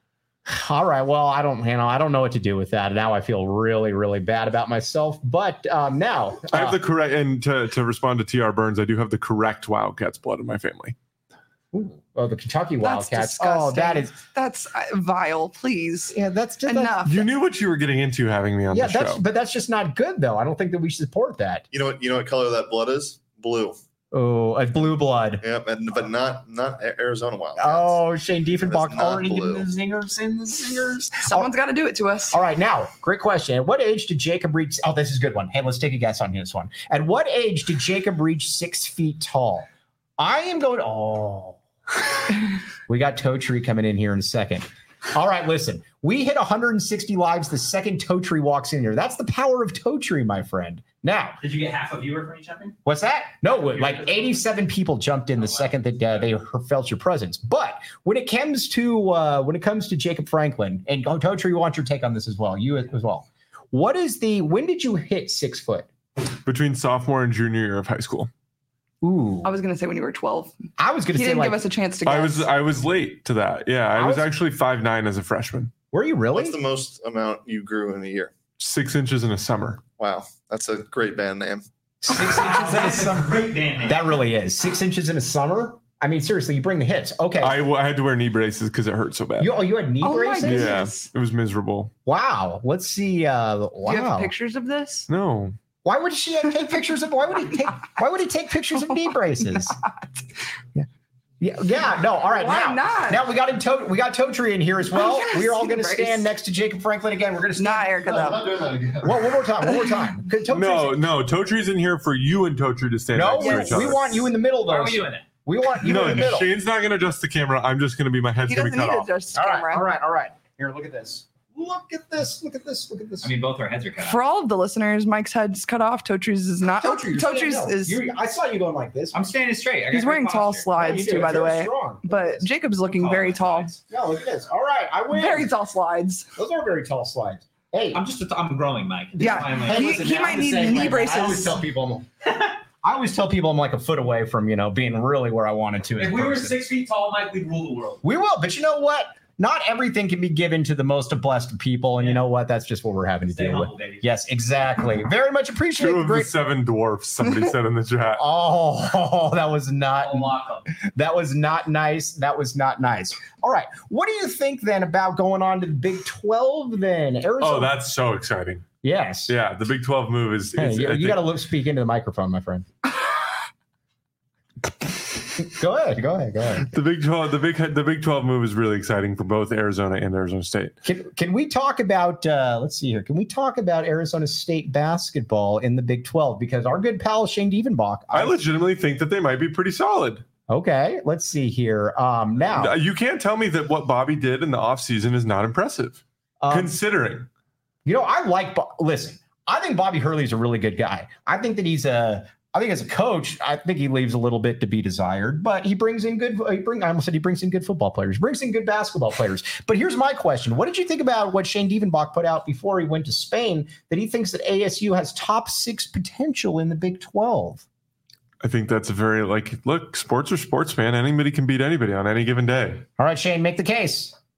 All right. Well, I don't, you know, I don't know what to do with that. Now I feel really, really bad about myself. But um, now
I have
uh,
the correct, and to to respond to T R Burns, I do have the correct Wildcats blood in my family.
ooh, oh, the Kentucky
That's
Wildcats.
disgusting.
Oh, that is
That's uh, vile. Please.
yeah. That's just
Enough.
You knew what you were getting into having me on
Yeah,
the
that's
show.
but that's just not good though. I don't think that we should support that.
You know what? You know what color that blood is? Blue.
Oh, a blue blood.
Yep, and but not not A- Arizona Wildcats.
Oh, Shane Diefenbach
That's not
already getting
blue.
the zingers in the zingers.
Someone's got to do it to us.
All right, now, great question. At what age did Jacob reach? Oh, this is a good one. Hey, let's take a guess on this one. At what age did Jacob reach six feet tall? I am going. Oh, we got Toe Tree coming in here in a second. All right, listen. We hit one hundred sixty lives the second Toe Tree walks in here. That's the power of Toe Tree, my friend. Now,
Did you get half a viewer for each jumping?
what's that? No, like eighty-seven people jumped in the second that uh, they felt your presence. But when it comes to uh, when it comes to Jacob Franklin and oh, Toe Tree, we want your take on this as well. You as well. What is the? When did you hit six foot?
Between sophomore and junior year of high school.
Ooh,
I was going to say when you were twelve.
I was going
He
to say
didn't
like,
give us a chance to guess.
I was I was late to that. Yeah, I,
I
was,
was-
actually five nine as a freshman.
were you really?
What's the most amount you grew in a year?
Six inches in a summer.
Wow, that's a great band name.
Six inches in a
That's a
summer.
great band name.
That really is six inches in a summer. I mean, seriously, you bring the hits. Okay.
I, w- I had to wear knee braces because it hurt so bad.
you, oh, you had knee
Oh my
braces?
goodness.
Yeah,
Goodness.
it was miserable.
Wow. Let's see. Uh,
Do you have
wow.
pictures of this?
No,
Why would she take pictures of? Why would he take? Why would he take pictures of knee braces? Yeah, yeah, yeah. No, all right.
Why
now,
not?
now we got him. To- we got Toe Tree in here as well.
Oh, yes,
we are all going to
knee
stand
brace.
next to Jacob Franklin again. We're going to stand.
Not Erica, though.
doing that again.
One, one more time. One more time. 'Cause Toe
no,
Tree's-
no. Toe Tree's in here for you and Toe Tree to stand
no.
next to
We,
each other.
we want you in the middle,
Why
though.
are we doing it?
We want you
no,
in the middle.
Shane's not going to adjust the camera. I'm just going to be my head's
He
going
doesn't
to be
need
cut
to
off.
adjust the
All right.
camera.
All right. All right. Here, look at this. Look at this. Look at this. Look at this.
I mean, both our heads are cut off.
For all of the listeners, Mike's head's cut off. Totree's is not.
Toe Tree, you're
Totree's
standing- no,
is.
you're- I saw you going like this.
I'm standing straight. I got
He's
great
wearing tall
posture.
slides
You do.
too, by
It's
the
very
way.
strong. Look at
But
this.
Jacob's looking
Tall
very tall.
slides.
No, look at this. All right, I win.
Very tall slides.
Those are very tall slides. Hey,
I'm just. A, I'm growing, Mike.
Yeah.
That's why I'm
hey,
like,
He-
listen,
he
man,
might
I'm the
need
same
knee
way, man.
braces.
I always tell people I'm, I always tell people I'm like a foot away from you know being really where I wanted to. as
if
a
we were
person.
six feet tall, Mike, we'd rule the world.
we will, but you know what? Not everything can be given to the most blessed people, and you know what? That's just what we're having to
Stay
deal
humble,
with.
baby.
Yes, exactly. Very much appreciate
Two
the
of the
great.
seven dwarfs. Somebody said in the chat.
Oh, that was not
I'll lock them.
that was not nice. That was not nice. All right, what do you think then about going on to the Big twelve? Then Arizona.
Oh, that's so exciting.
yes.
Yeah, the Big twelve move is.
Hey,
is
you,
I
you
think-
got to look, speak into the microphone, my friend. Go ahead. Go ahead. Go ahead.
The Big twelve, the big, the Big twelve move is really exciting for both Arizona and Arizona State.
Can can we talk about? Uh, let's see here. Can we talk about Arizona State basketball in the Big twelve? Because our good pal Shane Diefenbach.
I legitimately think that they might be pretty solid.
Okay. Let's see here. Um, now,
You can't tell me that what Bobby did in the offseason is not impressive,
um,
considering.
you know, I like. Bo- Listen, I think Bobby Hurley is a really good guy. I think that he's a. I think as a coach, I think he leaves a little bit to be desired, but he brings in good. He bring. I almost said he brings in good football players. Brings in good basketball players. But here's my question: what did you think about what Shane Diefenbach put out before he went to Spain? That he thinks that A S U has top six potential in the Big twelve.
I think that's a very, like, look, sports are sports, man. Anybody can beat anybody on any given day.
All right, Shane, make the case.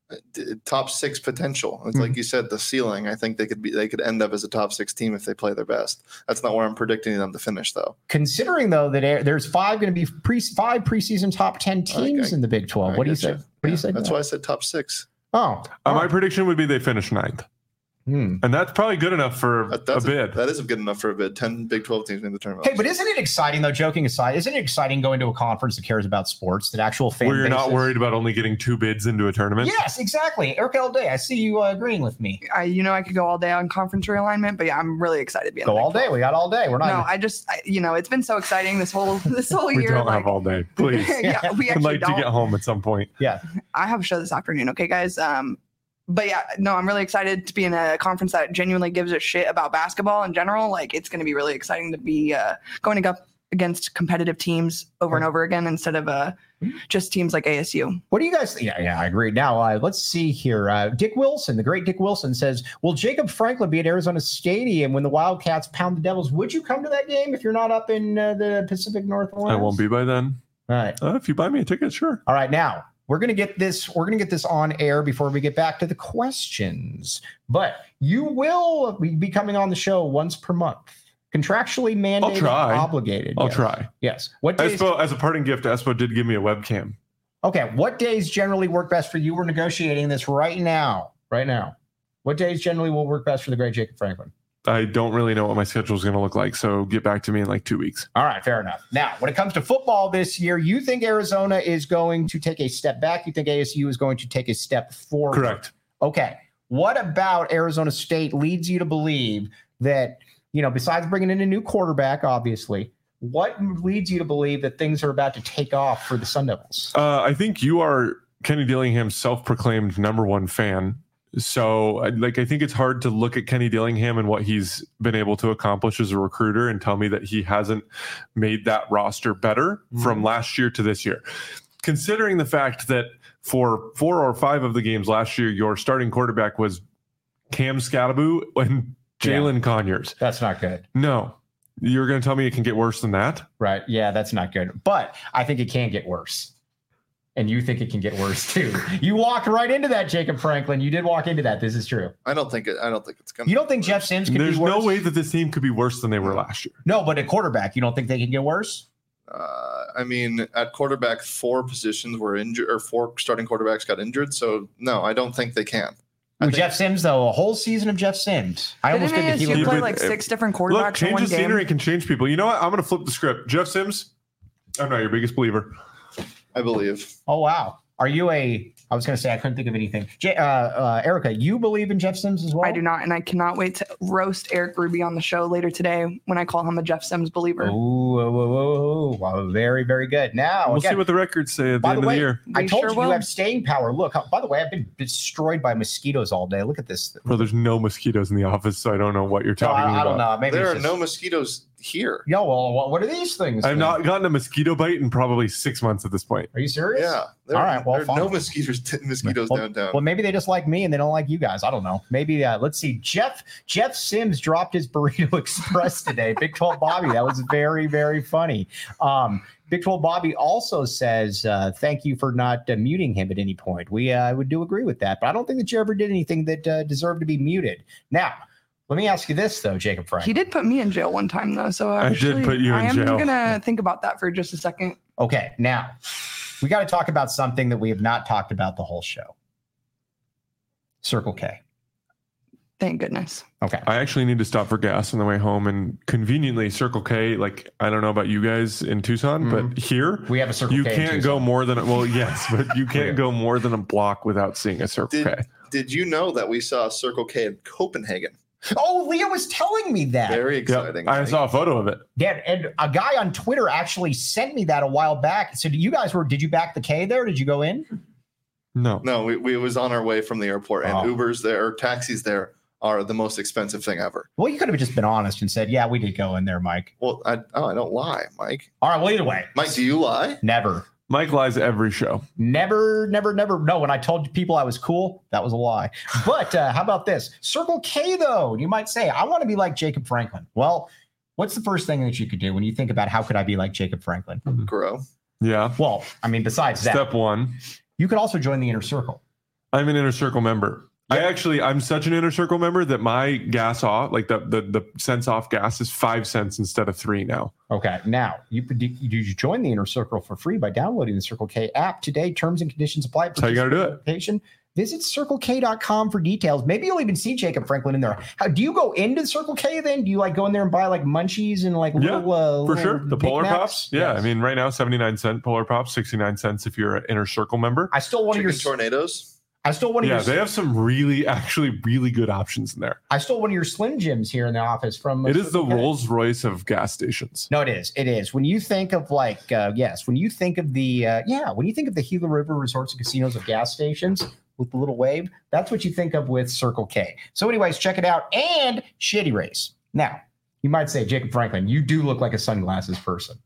D- top six potential. It's
Mhm.
like you said, the ceiling. I think they could be. They could end up as a top six team if they play their best. That's not where I'm predicting them to finish, though.
Considering though that there- there's five going to be pre five preseason top ten teams
I-
in the Big twelve.
I
What do you
get
say?
you.
What do you
Yeah,
say?
That's why I said top six.
Oh,
Uh, my
oh.
prediction would be they finish ninth,
Hmm.
and that's probably good enough for
That,
a
that's
bid.
that is good enough for a bid. Ten Big twelve teams in the tournament.
Hey, but isn't it exciting though? Joking aside, isn't it exciting going to a conference that cares about sports, that actual fan
Where you're not
bases-
worried about only getting two bids into a tournament.
Yes, exactly. Eric L. Day, I see you uh, agreeing with me.
I, you know, I could go all day on conference realignment, but yeah, I'm really excited to be on
Go
the Big
all day. We got all day. We're not.
No, I just, I, you know, it's been so exciting this whole this whole
We
year.
don't
like,
have all day, please.
yeah, we
I'd
actually
like
don't.
to get home at some point.
yeah.
I have a show this afternoon. Okay, guys. Um, but yeah, no, I'm really excited to be in a conference that genuinely gives a shit about basketball in general. Like, it's going to be really exciting to be uh, going up against competitive teams over and over again instead of uh, just teams like A S U.
What do you guys think? Yeah, yeah, I agree. Now, uh, let's see here. Uh, Dick Wilson, the great Dick Wilson, says, will Jacob Franklin be at Arizona Stadium when the Wildcats pound the Devils? Would you come to that game if you're not up in uh, the Pacific Northwest?
I won't be by then.
All right.
Uh, if you buy me a ticket, sure.
All right. Now, we're going to get this. We're going to get this on air before we get back to the questions. But you will be coming on the show once per month. Contractually mandated,
try.
obligated.
I'll
yes.
try.
Yes. What days?
Espo, as a parting gift, Espo did give me a webcam.
Okay. What days generally work best for you? We're negotiating this right now. Right now. What days generally will work best for the great Jacob Franklin?
I don't really know what my schedule is going to look like, so get back to me in like two weeks.
All right, fair enough. Now, when it comes to football this year, you think Arizona is going to take a step back? You think A S U is going to take a step forward?
Correct.
Okay. What about Arizona State leads you to believe that, you know, besides bringing in a new quarterback, obviously, what leads you to believe that things are about to take off for the Sun Devils?
Uh, I think you are Kenny Dillingham's self-proclaimed number one fan. So, like, I think it's hard to look at Kenny Dillingham and what he's been able to accomplish as a recruiter and tell me that he hasn't made that roster better mm-hmm. from last year to this year. Considering the fact that for four or five of the games last year, your starting quarterback was Cam Scattaboo and Jalen yeah. Conyers.
That's not good.
No. You're going to tell me it can get worse than that?
Right. Yeah, that's not good. But I think it can get worse. And you think it can get worse too. You walked right into that, Jacob Franklin. You did walk into that. This is true.
I don't think it. I don't think it's gonna.
You don't think Jeff Sims can
There's
be worse?
no way that this team could be worse than they were last year.
No, but at quarterback, you don't think they can get worse?
Uh, I mean, at quarterback, four positions were injured, or four starting quarterbacks got injured. So no, I don't think they can.
With think, Jeff Sims, though, a whole season of Jeff Sims. I
Didn't
almost did the
you
Hewlett.
play like six different quarterbacks
Look, change
in one
the
game?
scenery can change people. You know what? I'm going to flip the script. Jeff Sims, I'm not your biggest believer.
I believe.
Oh, wow. Are you a, I was going to say, I couldn't think of anything. J- uh, uh, Erica, you believe in Jeff Sims as well?
I do not. And I cannot wait to roast Eric Ruby on the show later today when I call him a Jeff Sims believer.
Oh, whoa, whoa, whoa. Wow, very, very good. Now,
we'll
again,
see what the records say at the
by
end
the way,
of the year.
I
We
told
sure
you
will.
you have staying power. Look, by the way, I've been destroyed by mosquitoes all day. Look at this.
Bro, there's no mosquitoes in the office, so I don't know what you're
No,
talking
I,
about.
I don't know. Maybe
There
it's
are
just,
no mosquitoes here.
Yo, well, what, what are these things?
I've
then?
not gotten a mosquito bite in probably six months at this point.
Are you serious?
Yeah. There,
All right, well,
there are
fine.
no mosquitoes. Mosquitoes
well,
downtown.
Well, maybe they just like me and they don't like you guys. I don't know. Maybe uh, let's see. Jeff Jeff Sims dropped his Burrito Express today. Big twelve Bobby. That was very, very funny. Um, Big twelve Bobby also says, uh, thank you for not uh, muting him at any point. We uh, would do agree with that, but I don't think that you ever did anything that uh, deserved to be muted. Now, let me ask you this, though, Jacob Frank.
He did put me in jail one time, though. So
I did
actually,
put you in
I am
jail.
going to think about that for just a second.
Okay, now we got to talk about something that we have not talked about the whole show. Circle K.
Thank goodness.
Okay.
I actually need to stop for gas on the way home, and conveniently, Circle K. Like, I don't know about you guys in Tucson,
Mhm.
but here
We have a Circle
you
K. in
can't go
Tucson.
more than well, yes, but you
Yeah.
can't go more than a block without seeing a Circle
Did,
K.
did you know that we saw Circle K in Copenhagen?
Oh, Leah was telling me that.
Very
Yep,
exciting.
I
Mike.
saw a photo of it.
Yeah, and a guy on Twitter actually sent me that a while back. So, you guys were? Did you back the K there? Did you go in?
No,
No, we, we was on our way from the airport, and
Oh.
Ubers there, or taxis there, are the most expensive thing ever.
Well, you could have just been honest and said, "Yeah, we did go in there, Mike."
Well, I oh, I don't lie, Mike.
All right. Well, either way,
Mike, do you lie?
never,
Mike lies every show.
never, never, never. No, when I told people I was cool, that was a lie. But uh, how about this Circle K though? You might say, "I want to be like Jacob Franklin." Well, what's the first thing that you could do when you think about how could I be like Jacob Franklin?
Grow.
Yeah.
Well, I mean, besides that,
Step one.
you could also join the inner circle.
I'm an Inner Circle member. I actually, I'm such an Inner Circle member that my gas off, like the the the cents off gas, is five cents instead of three now.
Okay, now you you join the Inner Circle for free by downloading the Circle K app today. Terms and conditions apply.
That's how you got to do it.
Visit circle k dot com for details. Maybe you'll even see Jacob Franklin in there. How do you go into Circle K then? Do you like go in there and buy like munchies and like
yeah,
little uh,
for
little
sure the
Big
Polar
Macs?
Pops? Yeah, yes. I mean right now seventy-nine cent Polar Pops, sixty-nine cents if you're an Inner Circle member.
I still want
Chicken
your
tornadoes.
I stole one of
yeah,
your.
they have some really, actually, really good options in there.
I stole one of your Slim Jims here in the office from.
It is the Rolls Royce of gas stations.
No, it is. It is. When you think of like, uh, yes, when you think of the, uh, yeah, when you think of the Gila River Resorts and Casinos of gas stations with the little wave, that's what you think of with Circle K. So, anyways, check it out. And Shady Rays. Now, you might say, Jacob Franklin, you do look like a sunglasses person.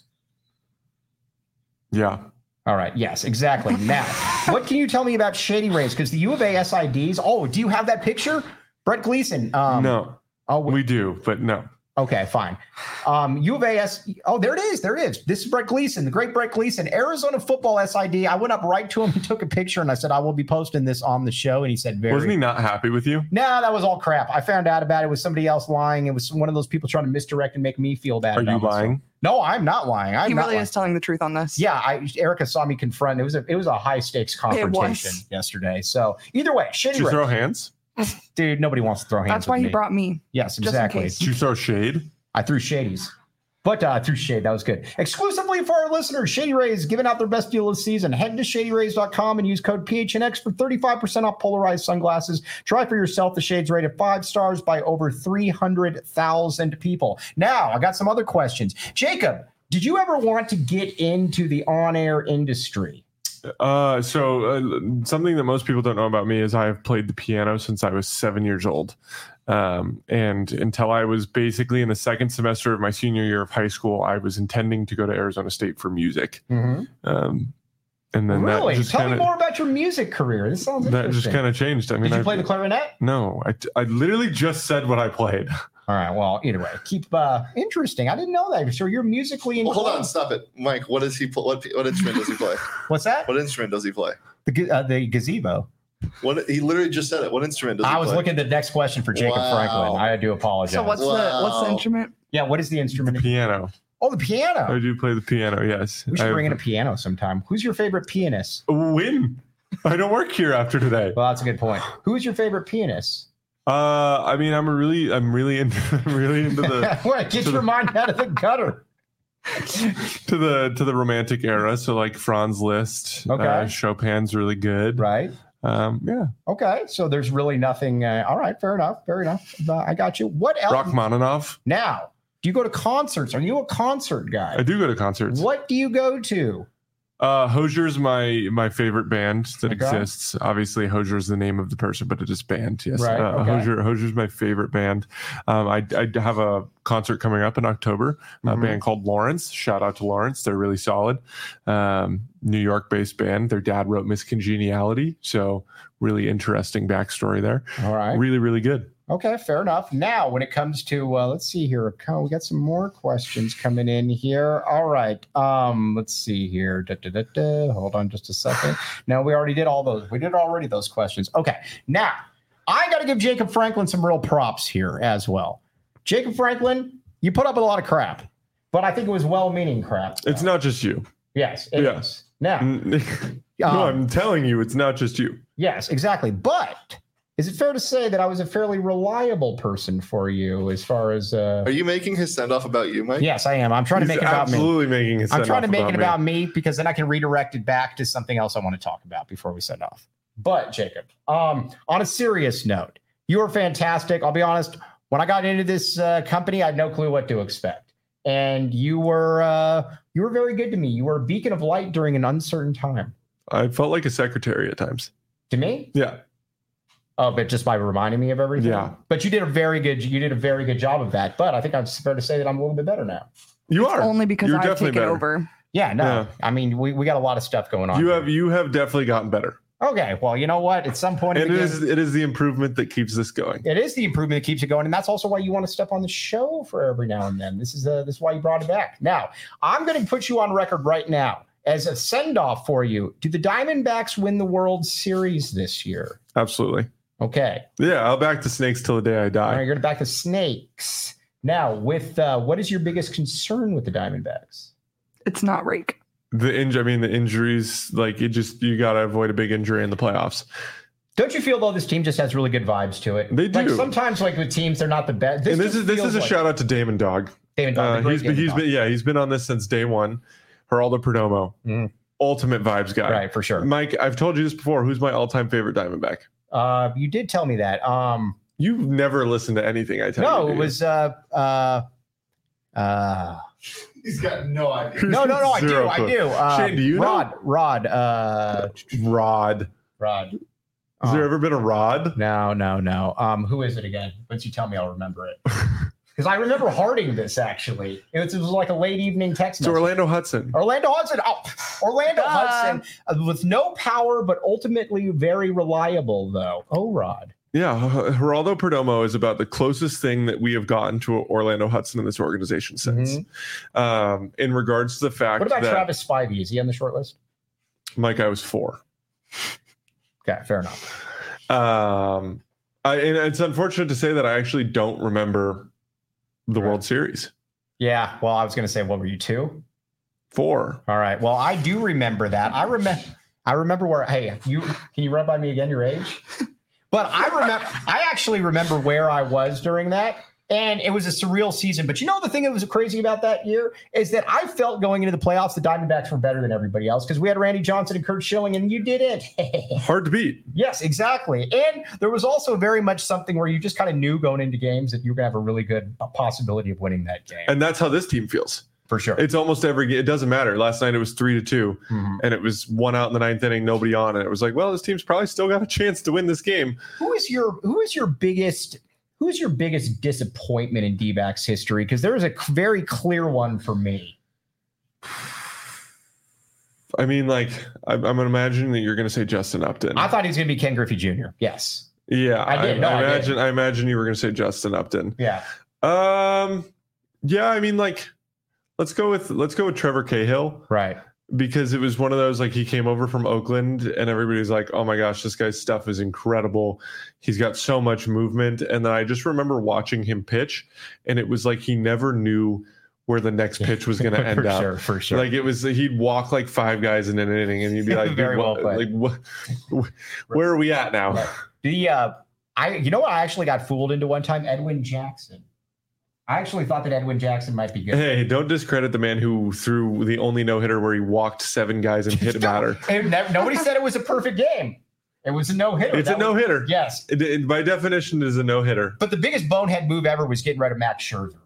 Yeah.
All right. Yes, exactly. Now, what can you tell me about Shady Rays? Because the U of A S I Ds. Oh, do you have that picture? Brett Gleason. Um,
no.
Oh,
we do, but no.
Okay, fine. Um, U of A S. Oh, there it is. There it is. This is Brett Gleason, the great Brett Gleason, Arizona football S I D. I went up right to him and took a picture, and I said, I will be posting this on the show. And he said, very.
Wasn't he not happy with you?
No, nah, that was all crap. I found out about it. It was somebody else lying. It was one of those people trying to misdirect and make me feel bad.
Are you lying?
No, I'm not lying. I'm
he
not
really
lying.
is telling the truth on this.
Yeah, I, Erica saw me confront. It was a it was a high stakes confrontation yesterday. So either way, Shady
Did you
Rays.
throw hands?
Dude, nobody wants to throw hands.
That's why
with
he
me.
brought me.
Yes,
Just in
exactly.
case.
Did you throw shade?
I threw shadies. But uh, through shade, that was good. Exclusively for our listeners, Shady Rays giving out their best deal of the season. Head to shady rays dot com and use code P H N X for thirty-five percent off polarized sunglasses. Try for yourself. The shades rated five stars by over three hundred thousand people. Now, I got some other questions. Jacob, did you ever want to get into the on-air industry?
Uh, so uh, something that most people don't know about me is I have played the piano since I was seven years old. Um, and until I was basically in the second semester of my senior year of high school, I was intending to go to Arizona State for music.
Mm-hmm.
Um, and then
really?
that just
Tell
kinda,
me more about your music career. This sounds
that
interesting.
just kind of changed. I mean,
Did you
I,
play the clarinet?
No, I, I literally just said what I played.
All right. Well, either way, keep uh, interesting. I didn't know that. So you're musically
Well,
inclined.
hold on, stop it, Mike. What does he pl- what what instrument does he play?
What's that?
What instrument does he play?
The ga- uh, the gazebo.
What he literally just said it. What instrument does he
I was
play?
looking at the next question for Jacob
Wow.
Franklin. I do apologize.
So what's the what's the
Wow.
instrument?
yeah, what is the instrument?
Piano.
Oh, the piano.
I do play the piano. Yes.
We should
I
bring in a
have-
piano sometime. Who's your favorite pianist?
Win. I don't work here after today.
Well, that's a good point. Who's your favorite pianist?
Uh, I mean, I'm a really, I'm really into, I'm really into the
What? Get your mind out of the gutter.
to the to the romantic era. So like Franz Liszt,
Okay.
uh, Chopin's really good.
Right.
Um, yeah,
Okay. So there's really nothing. Uh, all right. Fair enough. Fair enough. Uh, I got you. What else?
Rachmaninoff.
Now, do you go to concerts? Are you a concert guy?
I do go to concerts.
What do you go to?
Uh, Hosier's my my favorite band that
Okay.
exists. Obviously, Hosier is the name of the person, but it is band. Yes,
Right,
uh,
okay.
Hosier Hosier's my favorite band. Um, I I have a concert coming up in October. A
Mhm.
band called Lawrence. Shout out to Lawrence. They're really solid. Um, New York based band. Their dad wrote Miss Congeniality, so really interesting backstory there.
All right.
Really, really good.
Okay, fair enough. Now, when it comes to, uh, let's see here. Oh, we got some more questions coming in here. All right. Um, let's see here. Da, da, da, da. Hold on just a second. No, we already did all those. We did already those questions. Okay. Now, I got to give Jacob Franklin some real props here as well. Jacob Franklin, you put up with a lot of crap, but I think it was well-meaning crap.
It's not just you.
Yes, it
Yeah.
is. Now,
no,
um,
I'm telling you, it's not just you.
yes, exactly. But is it fair to say that I was a fairly reliable person for you as far as uh
Are you making his send off about you, Mike?
yes, I am. I'm trying to
He's
make it about me.
absolutely making it.
I'm trying to make
about
it
me.
about me because then I can redirect it back to something else I want to talk about before we send off. But Jacob, um, on a serious note, you are fantastic. I'll be honest. When I got into this uh, company, I had no clue what to expect, and you were uh, you were very good to me. You were a beacon of light during an uncertain time.
I felt like a secretary at times.
To me,
Yeah.
oh, but just by reminding me of everything.
Yeah.
But you did a very good you did a very good job of that. But I think it's fair to say that I'm a little bit better now.
You are.
Only because
You're
I've
definitely
taken
better.
over.
Yeah, no.
Yeah.
I mean, we, we got a lot of stuff going on.
You
here.
have you have definitely gotten better.
Okay, well, you know what? At some point, in
And
the
it
game,
is it is the improvement that keeps this going.
it is the improvement that keeps it going, and that's also why you want to step on the show for every now and then. This is uh, this is why you brought it back. Now, I'm going to put you on record right now as a send-off for you, do the Diamondbacks win the World Series this year?
Absolutely.
Okay.
Yeah, I'll back the Snakes till the day I
All right,
die.
you're going to back the Snakes. Now, with uh, what is your biggest concern with the Diamondbacks?
It's not Rake.
The injury, I mean, the injuries, like it just, you got to avoid a big injury in the playoffs.
Don't you feel though this team just has really good vibes to it?
They
Like
do.
sometimes, like with teams, they're not the best.
and this
just
is this
feels
is a
like-
shout out to Damon Dog.
Damon Dog,
Uh,
the great
he's been,
Damon
he's
Dog.
been, yeah, he's been on this since day one. Geraldo Perdomo,
Mhm.
ultimate vibes guy.
Right, for sure.
Mike, I've told you this before. Who's my all time favorite Diamondback?
Uh, you did tell me that. Um,
You've never listened to anything I tell you.
no,
do
it
you?
was uh, uh, uh,
He's got no idea.
no, no, no. I do,
Zero
I
clue.
do. Uh,
Shane, do you know?
Rod, Rod, uh,
Rod.
Rod.
Has
Uh,
there ever been a Rod?
No, no, no. Um, who is it again? Once you tell me, I'll remember it. Because I remember hearting this actually. It was, it was like a late evening text
It's
message.
Orlando Hudson.
Orlando Hudson. Oh, Orlando
Duh.
Hudson uh, with no power, but ultimately very reliable, though. Oh, Rod.
Yeah, Geraldo Perdomo is about the closest thing that we have gotten to Orlando Hudson in this organization since. Um, in regards to the fact
What about
that
Travis Spivey? Is he on the short list?
Mike, I was four.
Okay, fair enough.
Um, I, and it's unfortunate to say that I actually don't remember the
Right.
World Series.
Yeah. Well, I was going to say, what were you, two?
Four.
All right. Well, I do remember that. I remember. I remember where. Hey, you can you run by me again? Your age? But I remember. I actually remember where I was during that, and it was a surreal season. But you know, the thing that was crazy about that year is that I felt going into the playoffs, the Diamondbacks were better than everybody else because we had Randy Johnson and Kurt Schilling, and you didn't.
Hard to beat.
Yes, exactly. And there was also very much something where you just kind of knew going into games that you were going to have a really good possibility of winning that game.
And that's how this team feels.
For sure.
It's almost every game. It doesn't matter. Last night it was three to two,
Mhm.
and it was one out in the ninth inning, nobody on, and it was like, well, this team's probably still got a chance to win this game.
Who is your who is your biggest who is your biggest disappointment in D-backs history? Because there is a c- very clear one for me.
I mean, like, I'm, I'm imagining that you're going to say Justin Upton.
I thought he was going to be Ken Griffey Junior Yes.
yeah,
I did. No, I did.
imagine. I imagine you were going to say Justin Upton.
Yeah.
Um, yeah, I mean, like, let's go with let's go with Trevor Cahill.
Right.
Because it was one of those, like, he came over from Oakland and everybody's like, oh my gosh, this guy's stuff is incredible. He's got so much movement. And then I just remember watching him pitch, and it was like he never knew where the next pitch was going to end
for
up.
sure. For sure.
Like, it was, he'd walk like five guys in an inning, and you'd be like,
Very
dude,
well
what,
played.
like, what, where are we at now?
Right. the uh, I you know what I actually got fooled into one time? Edwin Jackson. I actually thought that Edwin Jackson might be good.
Hey, don't discredit the man who threw the only no hitter where he walked seven guys and hit a batter.
And never- nobody said it was a perfect game. It was a no hitter.
It's a no hitter.
Yes.
It, it, by definition, it is a no hitter.
But the biggest bonehead move ever was getting rid of Max Scherzer.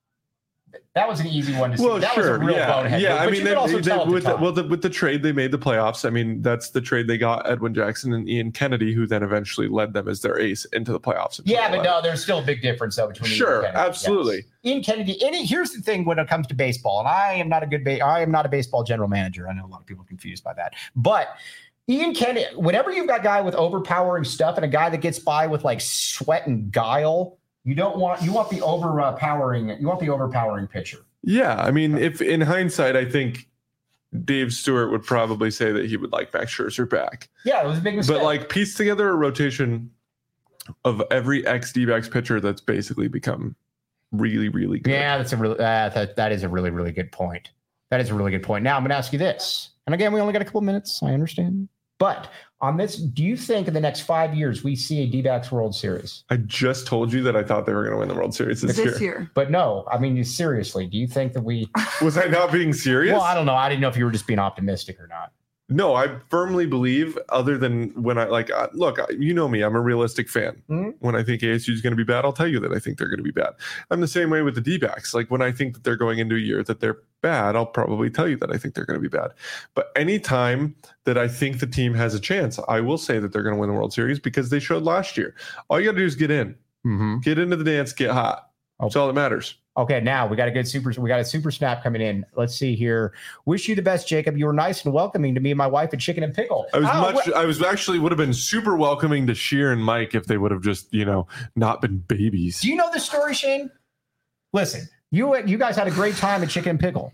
That was an easy one to see.
Well,
that
sure,
was a real
yeah,
bonehead
yeah.
move.
I
But
mean,
you
they,
could also
they-
tell at the
with the,
time.
well, the, with the trade they made the playoffs. I mean, that's the trade they got Edwin Jackson and Ian Kennedy, who then eventually led them as their ace into the playoffs. in
Yeah, but
twenty eleven.
no, there's still a big difference though between
Sure,
Ian Kennedy.
absolutely.
Yes. Ian Kennedy. And here's the thing when it comes to baseball, and I am not a good ba- I am not a baseball general manager. I know a lot of people are confused by that, but Ian Kennedy. Whenever you've got a guy with overpowering stuff and a guy that gets by with like sweat and guile, you don't want you want the overpowering you want the overpowering pitcher.
Yeah, I mean, if in hindsight, I think Dave Stewart would probably say that he would like Max Scherzer back.
Yeah, it was a big mistake.
But like, piece together a rotation of every ex D-backs pitcher that's basically become really, really good.
Yeah, that's a really uh, that that is a really really good point. That is a really good point. Now I'm going to ask you this, and again, we only got a couple minutes. I understand, but on this, do you think in the next five years we see a D-backs World Series?
I just told you that I thought they were going to win the World Series this,
This
year.
year.
But no, I mean seriously, do you think that we?
Was I not being serious?
Well, I don't know. I didn't know if you were just being optimistic or not.
No, I firmly believe, other than when I like, uh, look, I- you know me, I'm a realistic fan.
Mhm.
When I think A S U is going to be bad, I'll tell you that I think they're going to be bad. I'm the same way with the D-backs. Like, when I think that they're going into a year that they're bad, I'll probably tell you that I think they're going to be bad. But anytime that I think the team has a chance, I will say that they're going to win the World Series because they showed last year. All you got to do is get in,
Mm-hmm.
get into the dance, get hot. That's all that matters.
Okay, now we got a good super. We got a super snap coming in. Let's see here. Wish you the best, Jacob. You were nice and welcoming to me and my wife at Chicken and Pickle.
I was
Oh,
much.
wh-
I was actually would have been super welcoming to Sheer and Mike if they would have just, you know, not been babies.
Do you know this story, Shane? Listen, you you guys had a great time at Chicken and Pickle,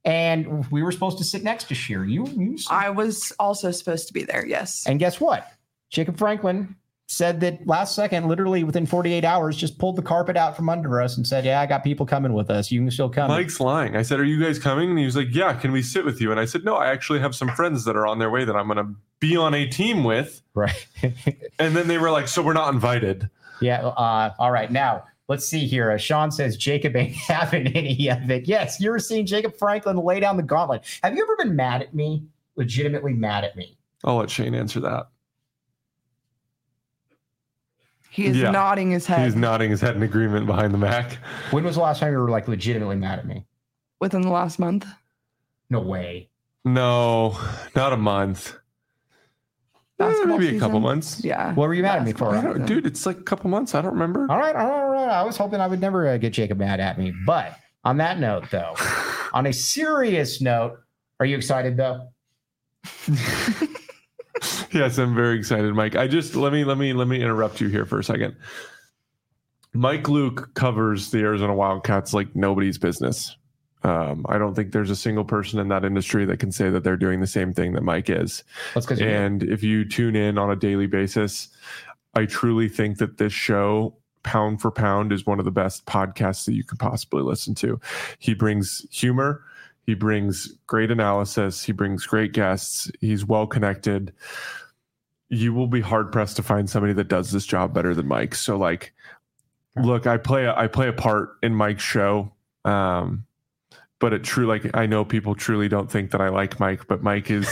and we were supposed to sit next to Sheer. You, you
I was also supposed to be there. Yes.
and guess what? Jacob Franklin said that last second, literally within forty-eight hours, just pulled the carpet out from under us and said, yeah, I got people coming with us. You can still come.
Mike's lying. I said, are you guys coming? And he was like, yeah, can we sit with you? And I said, no, I actually have some friends that are on their way that I'm going to be on a team with.
Right.
And then they were like, so we're not invited.
Yeah. Uh, all right. Now, let's see here. Uh, Sean says Jacob ain't having any of it. Yes, you're seeing Jacob Franklin lay down the gauntlet. Have you ever been mad at me? Legitimately mad at me?
I'll let Shane answer that.
He is
Yeah.
nodding his head.
He's nodding his head in agreement behind the Mac.
When was the last time you were like legitimately mad at me?
Within the last month.
No way.
No, not a month. Eh,
Basketball
maybe a couple
season.
months.
Yeah.
What were you mad at me for?
I don't- dude, it's like a couple months. I don't remember.
All right, all right, all right. I was hoping I would never uh, get Jacob mad at me. But on that note, though, on a serious note, are you excited though?
Yes, I'm very excited, Mike. I just let me let me let me interrupt you here for a second. Mike Luke covers the Arizona Wildcats like nobody's business. Um, I don't think there's a single person in that industry that can say that they're doing the same thing that Mike is.
That's because
And if you tune in on a daily basis, I truly think that this show, pound for pound, is one of the best podcasts that you could possibly listen to. He brings humor. He brings great analysis. He brings great guests. He's well connected. You will be hard pressed to find somebody that does this job better than Mike. So, like, look, I play a, I play a part in Mike's show. Um, but it true, like, I know people truly don't think that I like Mike, but Mike is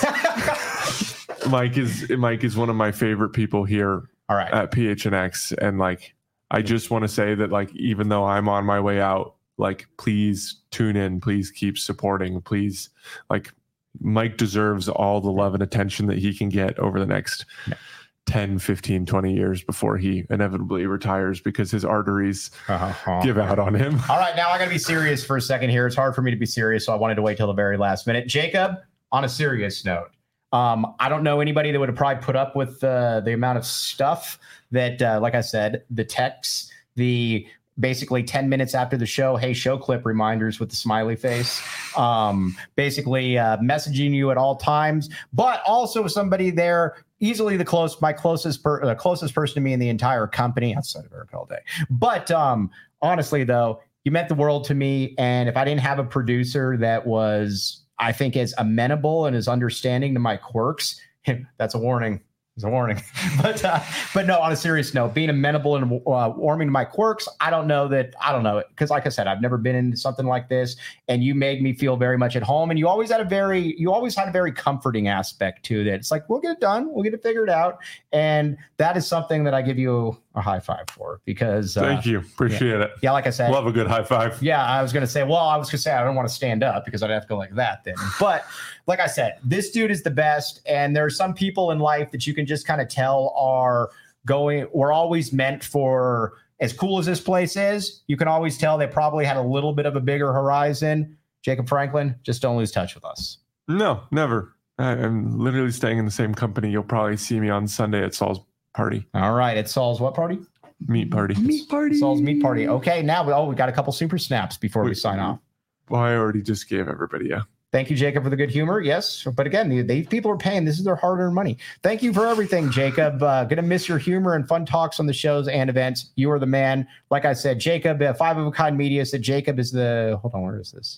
Mike is Mike is one of my favorite people here
all right.
at P H N X. And like, I just want to say that, like, even though I'm on my way out, like, please tune in, please keep supporting, please, like, Mike deserves all the love and attention that he can get over the next
Yeah.
ten, fifteen, twenty years before he inevitably retires because his arteries
Uh-huh.
give out on him.
All right, now I got to be serious for a second here. It's hard for me to be serious, so I wanted to wait till the very last minute. Jacob, on a serious note, um, I don't know anybody that would have probably put up with uh, the amount of stuff that, uh, like I said, the texts, the basically ten minutes after the show, hey, show clip reminders with the smiley face, um, basically uh, messaging you at all times, but also somebody there, easily the close, my closest, per, uh, closest person to me in the entire company, outside of Eric all day. But um, honestly, though, you meant the world to me. And if I didn't have a producer that was, I think, as amenable and as understanding to my quirks, that's a warning. It's a warning. but uh, but no, on a serious note, being amenable and uh, warming to my quirks, I don't know that, I don't know. Because like I said, I've never been into something like this. And you made me feel very much at home. And you always had a very, you always had a very comforting aspect to that. It's like, we'll get it done. We'll get it figured out. And that is something that I give you a high five for. Because uh,
Thank you. Appreciate it.
yeah, like I said,
Love a good high five.
yeah, I was going to say, well, I was going to say, I don't want to stand up because I'd have to go like that then. But like I said, this dude is the best. And there are some people in life that you can just kind of tell are going, we're always meant for, as cool as this place is, you can always tell they probably had a little bit of a bigger horizon. Jacob Franklin, just don't lose touch with us.
No, never. I, I'm literally staying in the same company. You'll probably see me on Sunday at Saul's party,
All right. It's Saul's what party?
meat party.
Meat party.
Saul's meat party. Okay. Now, we, oh, we got a couple super snaps before we
Wait,
sign off.
Well, I already just gave everybody a.
Thank you, Jacob, for the good humor. Yes, but again, the- these people are paying. This is their hard-earned money. Thank you for everything, Jacob. Uh, gonna miss your humor and fun talks on the shows and events. You are the man. Like I said, Jacob, uh, Five of a Kind Media said Jacob is the. Hold on, where is this?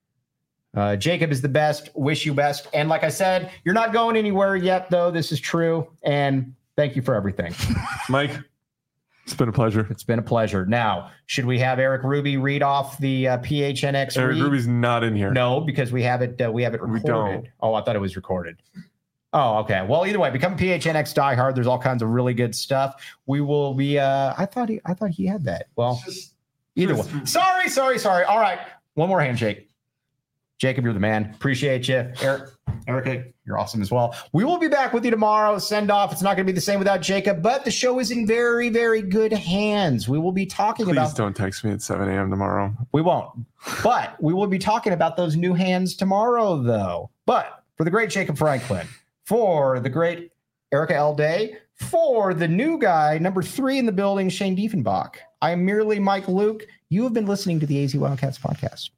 Uh, Jacob is the best. Wish you best. And like I said, you're not going anywhere yet, though. This is true. And thank you for everything.
Mike, it's been a pleasure.
It's been a pleasure. Now, should we have Eric Ruby read off the uh, P H N X?
Eric
read?
Ruby's not in here.
No, because we have it. Uh, we have it
We
recorded.
don't.
Oh, I thought it was recorded. Oh, okay. Well, either way, become P H N X diehard. There's all kinds of really good stuff. We will be. Uh, I thought he. I thought he had that. Well, either way. Sorry, sorry, sorry. All right. One more handshake. Jacob, you're the man. Appreciate you. Eric, Erica, you're awesome as well. We will be back with you tomorrow. Send off. It's not going to be the same without Jacob, but the show is in very, very good hands. We will be talking
Please
about.
don't text me at seven a.m. tomorrow.
We won't. But we will be talking about those new hands tomorrow, though. But for the great Jacob Franklin, for the great Erica L. Day, for the new guy, number three in the building, Shane Diefenbach, I am merely Mike Luke. You have been listening to the A Z Wildcats podcast.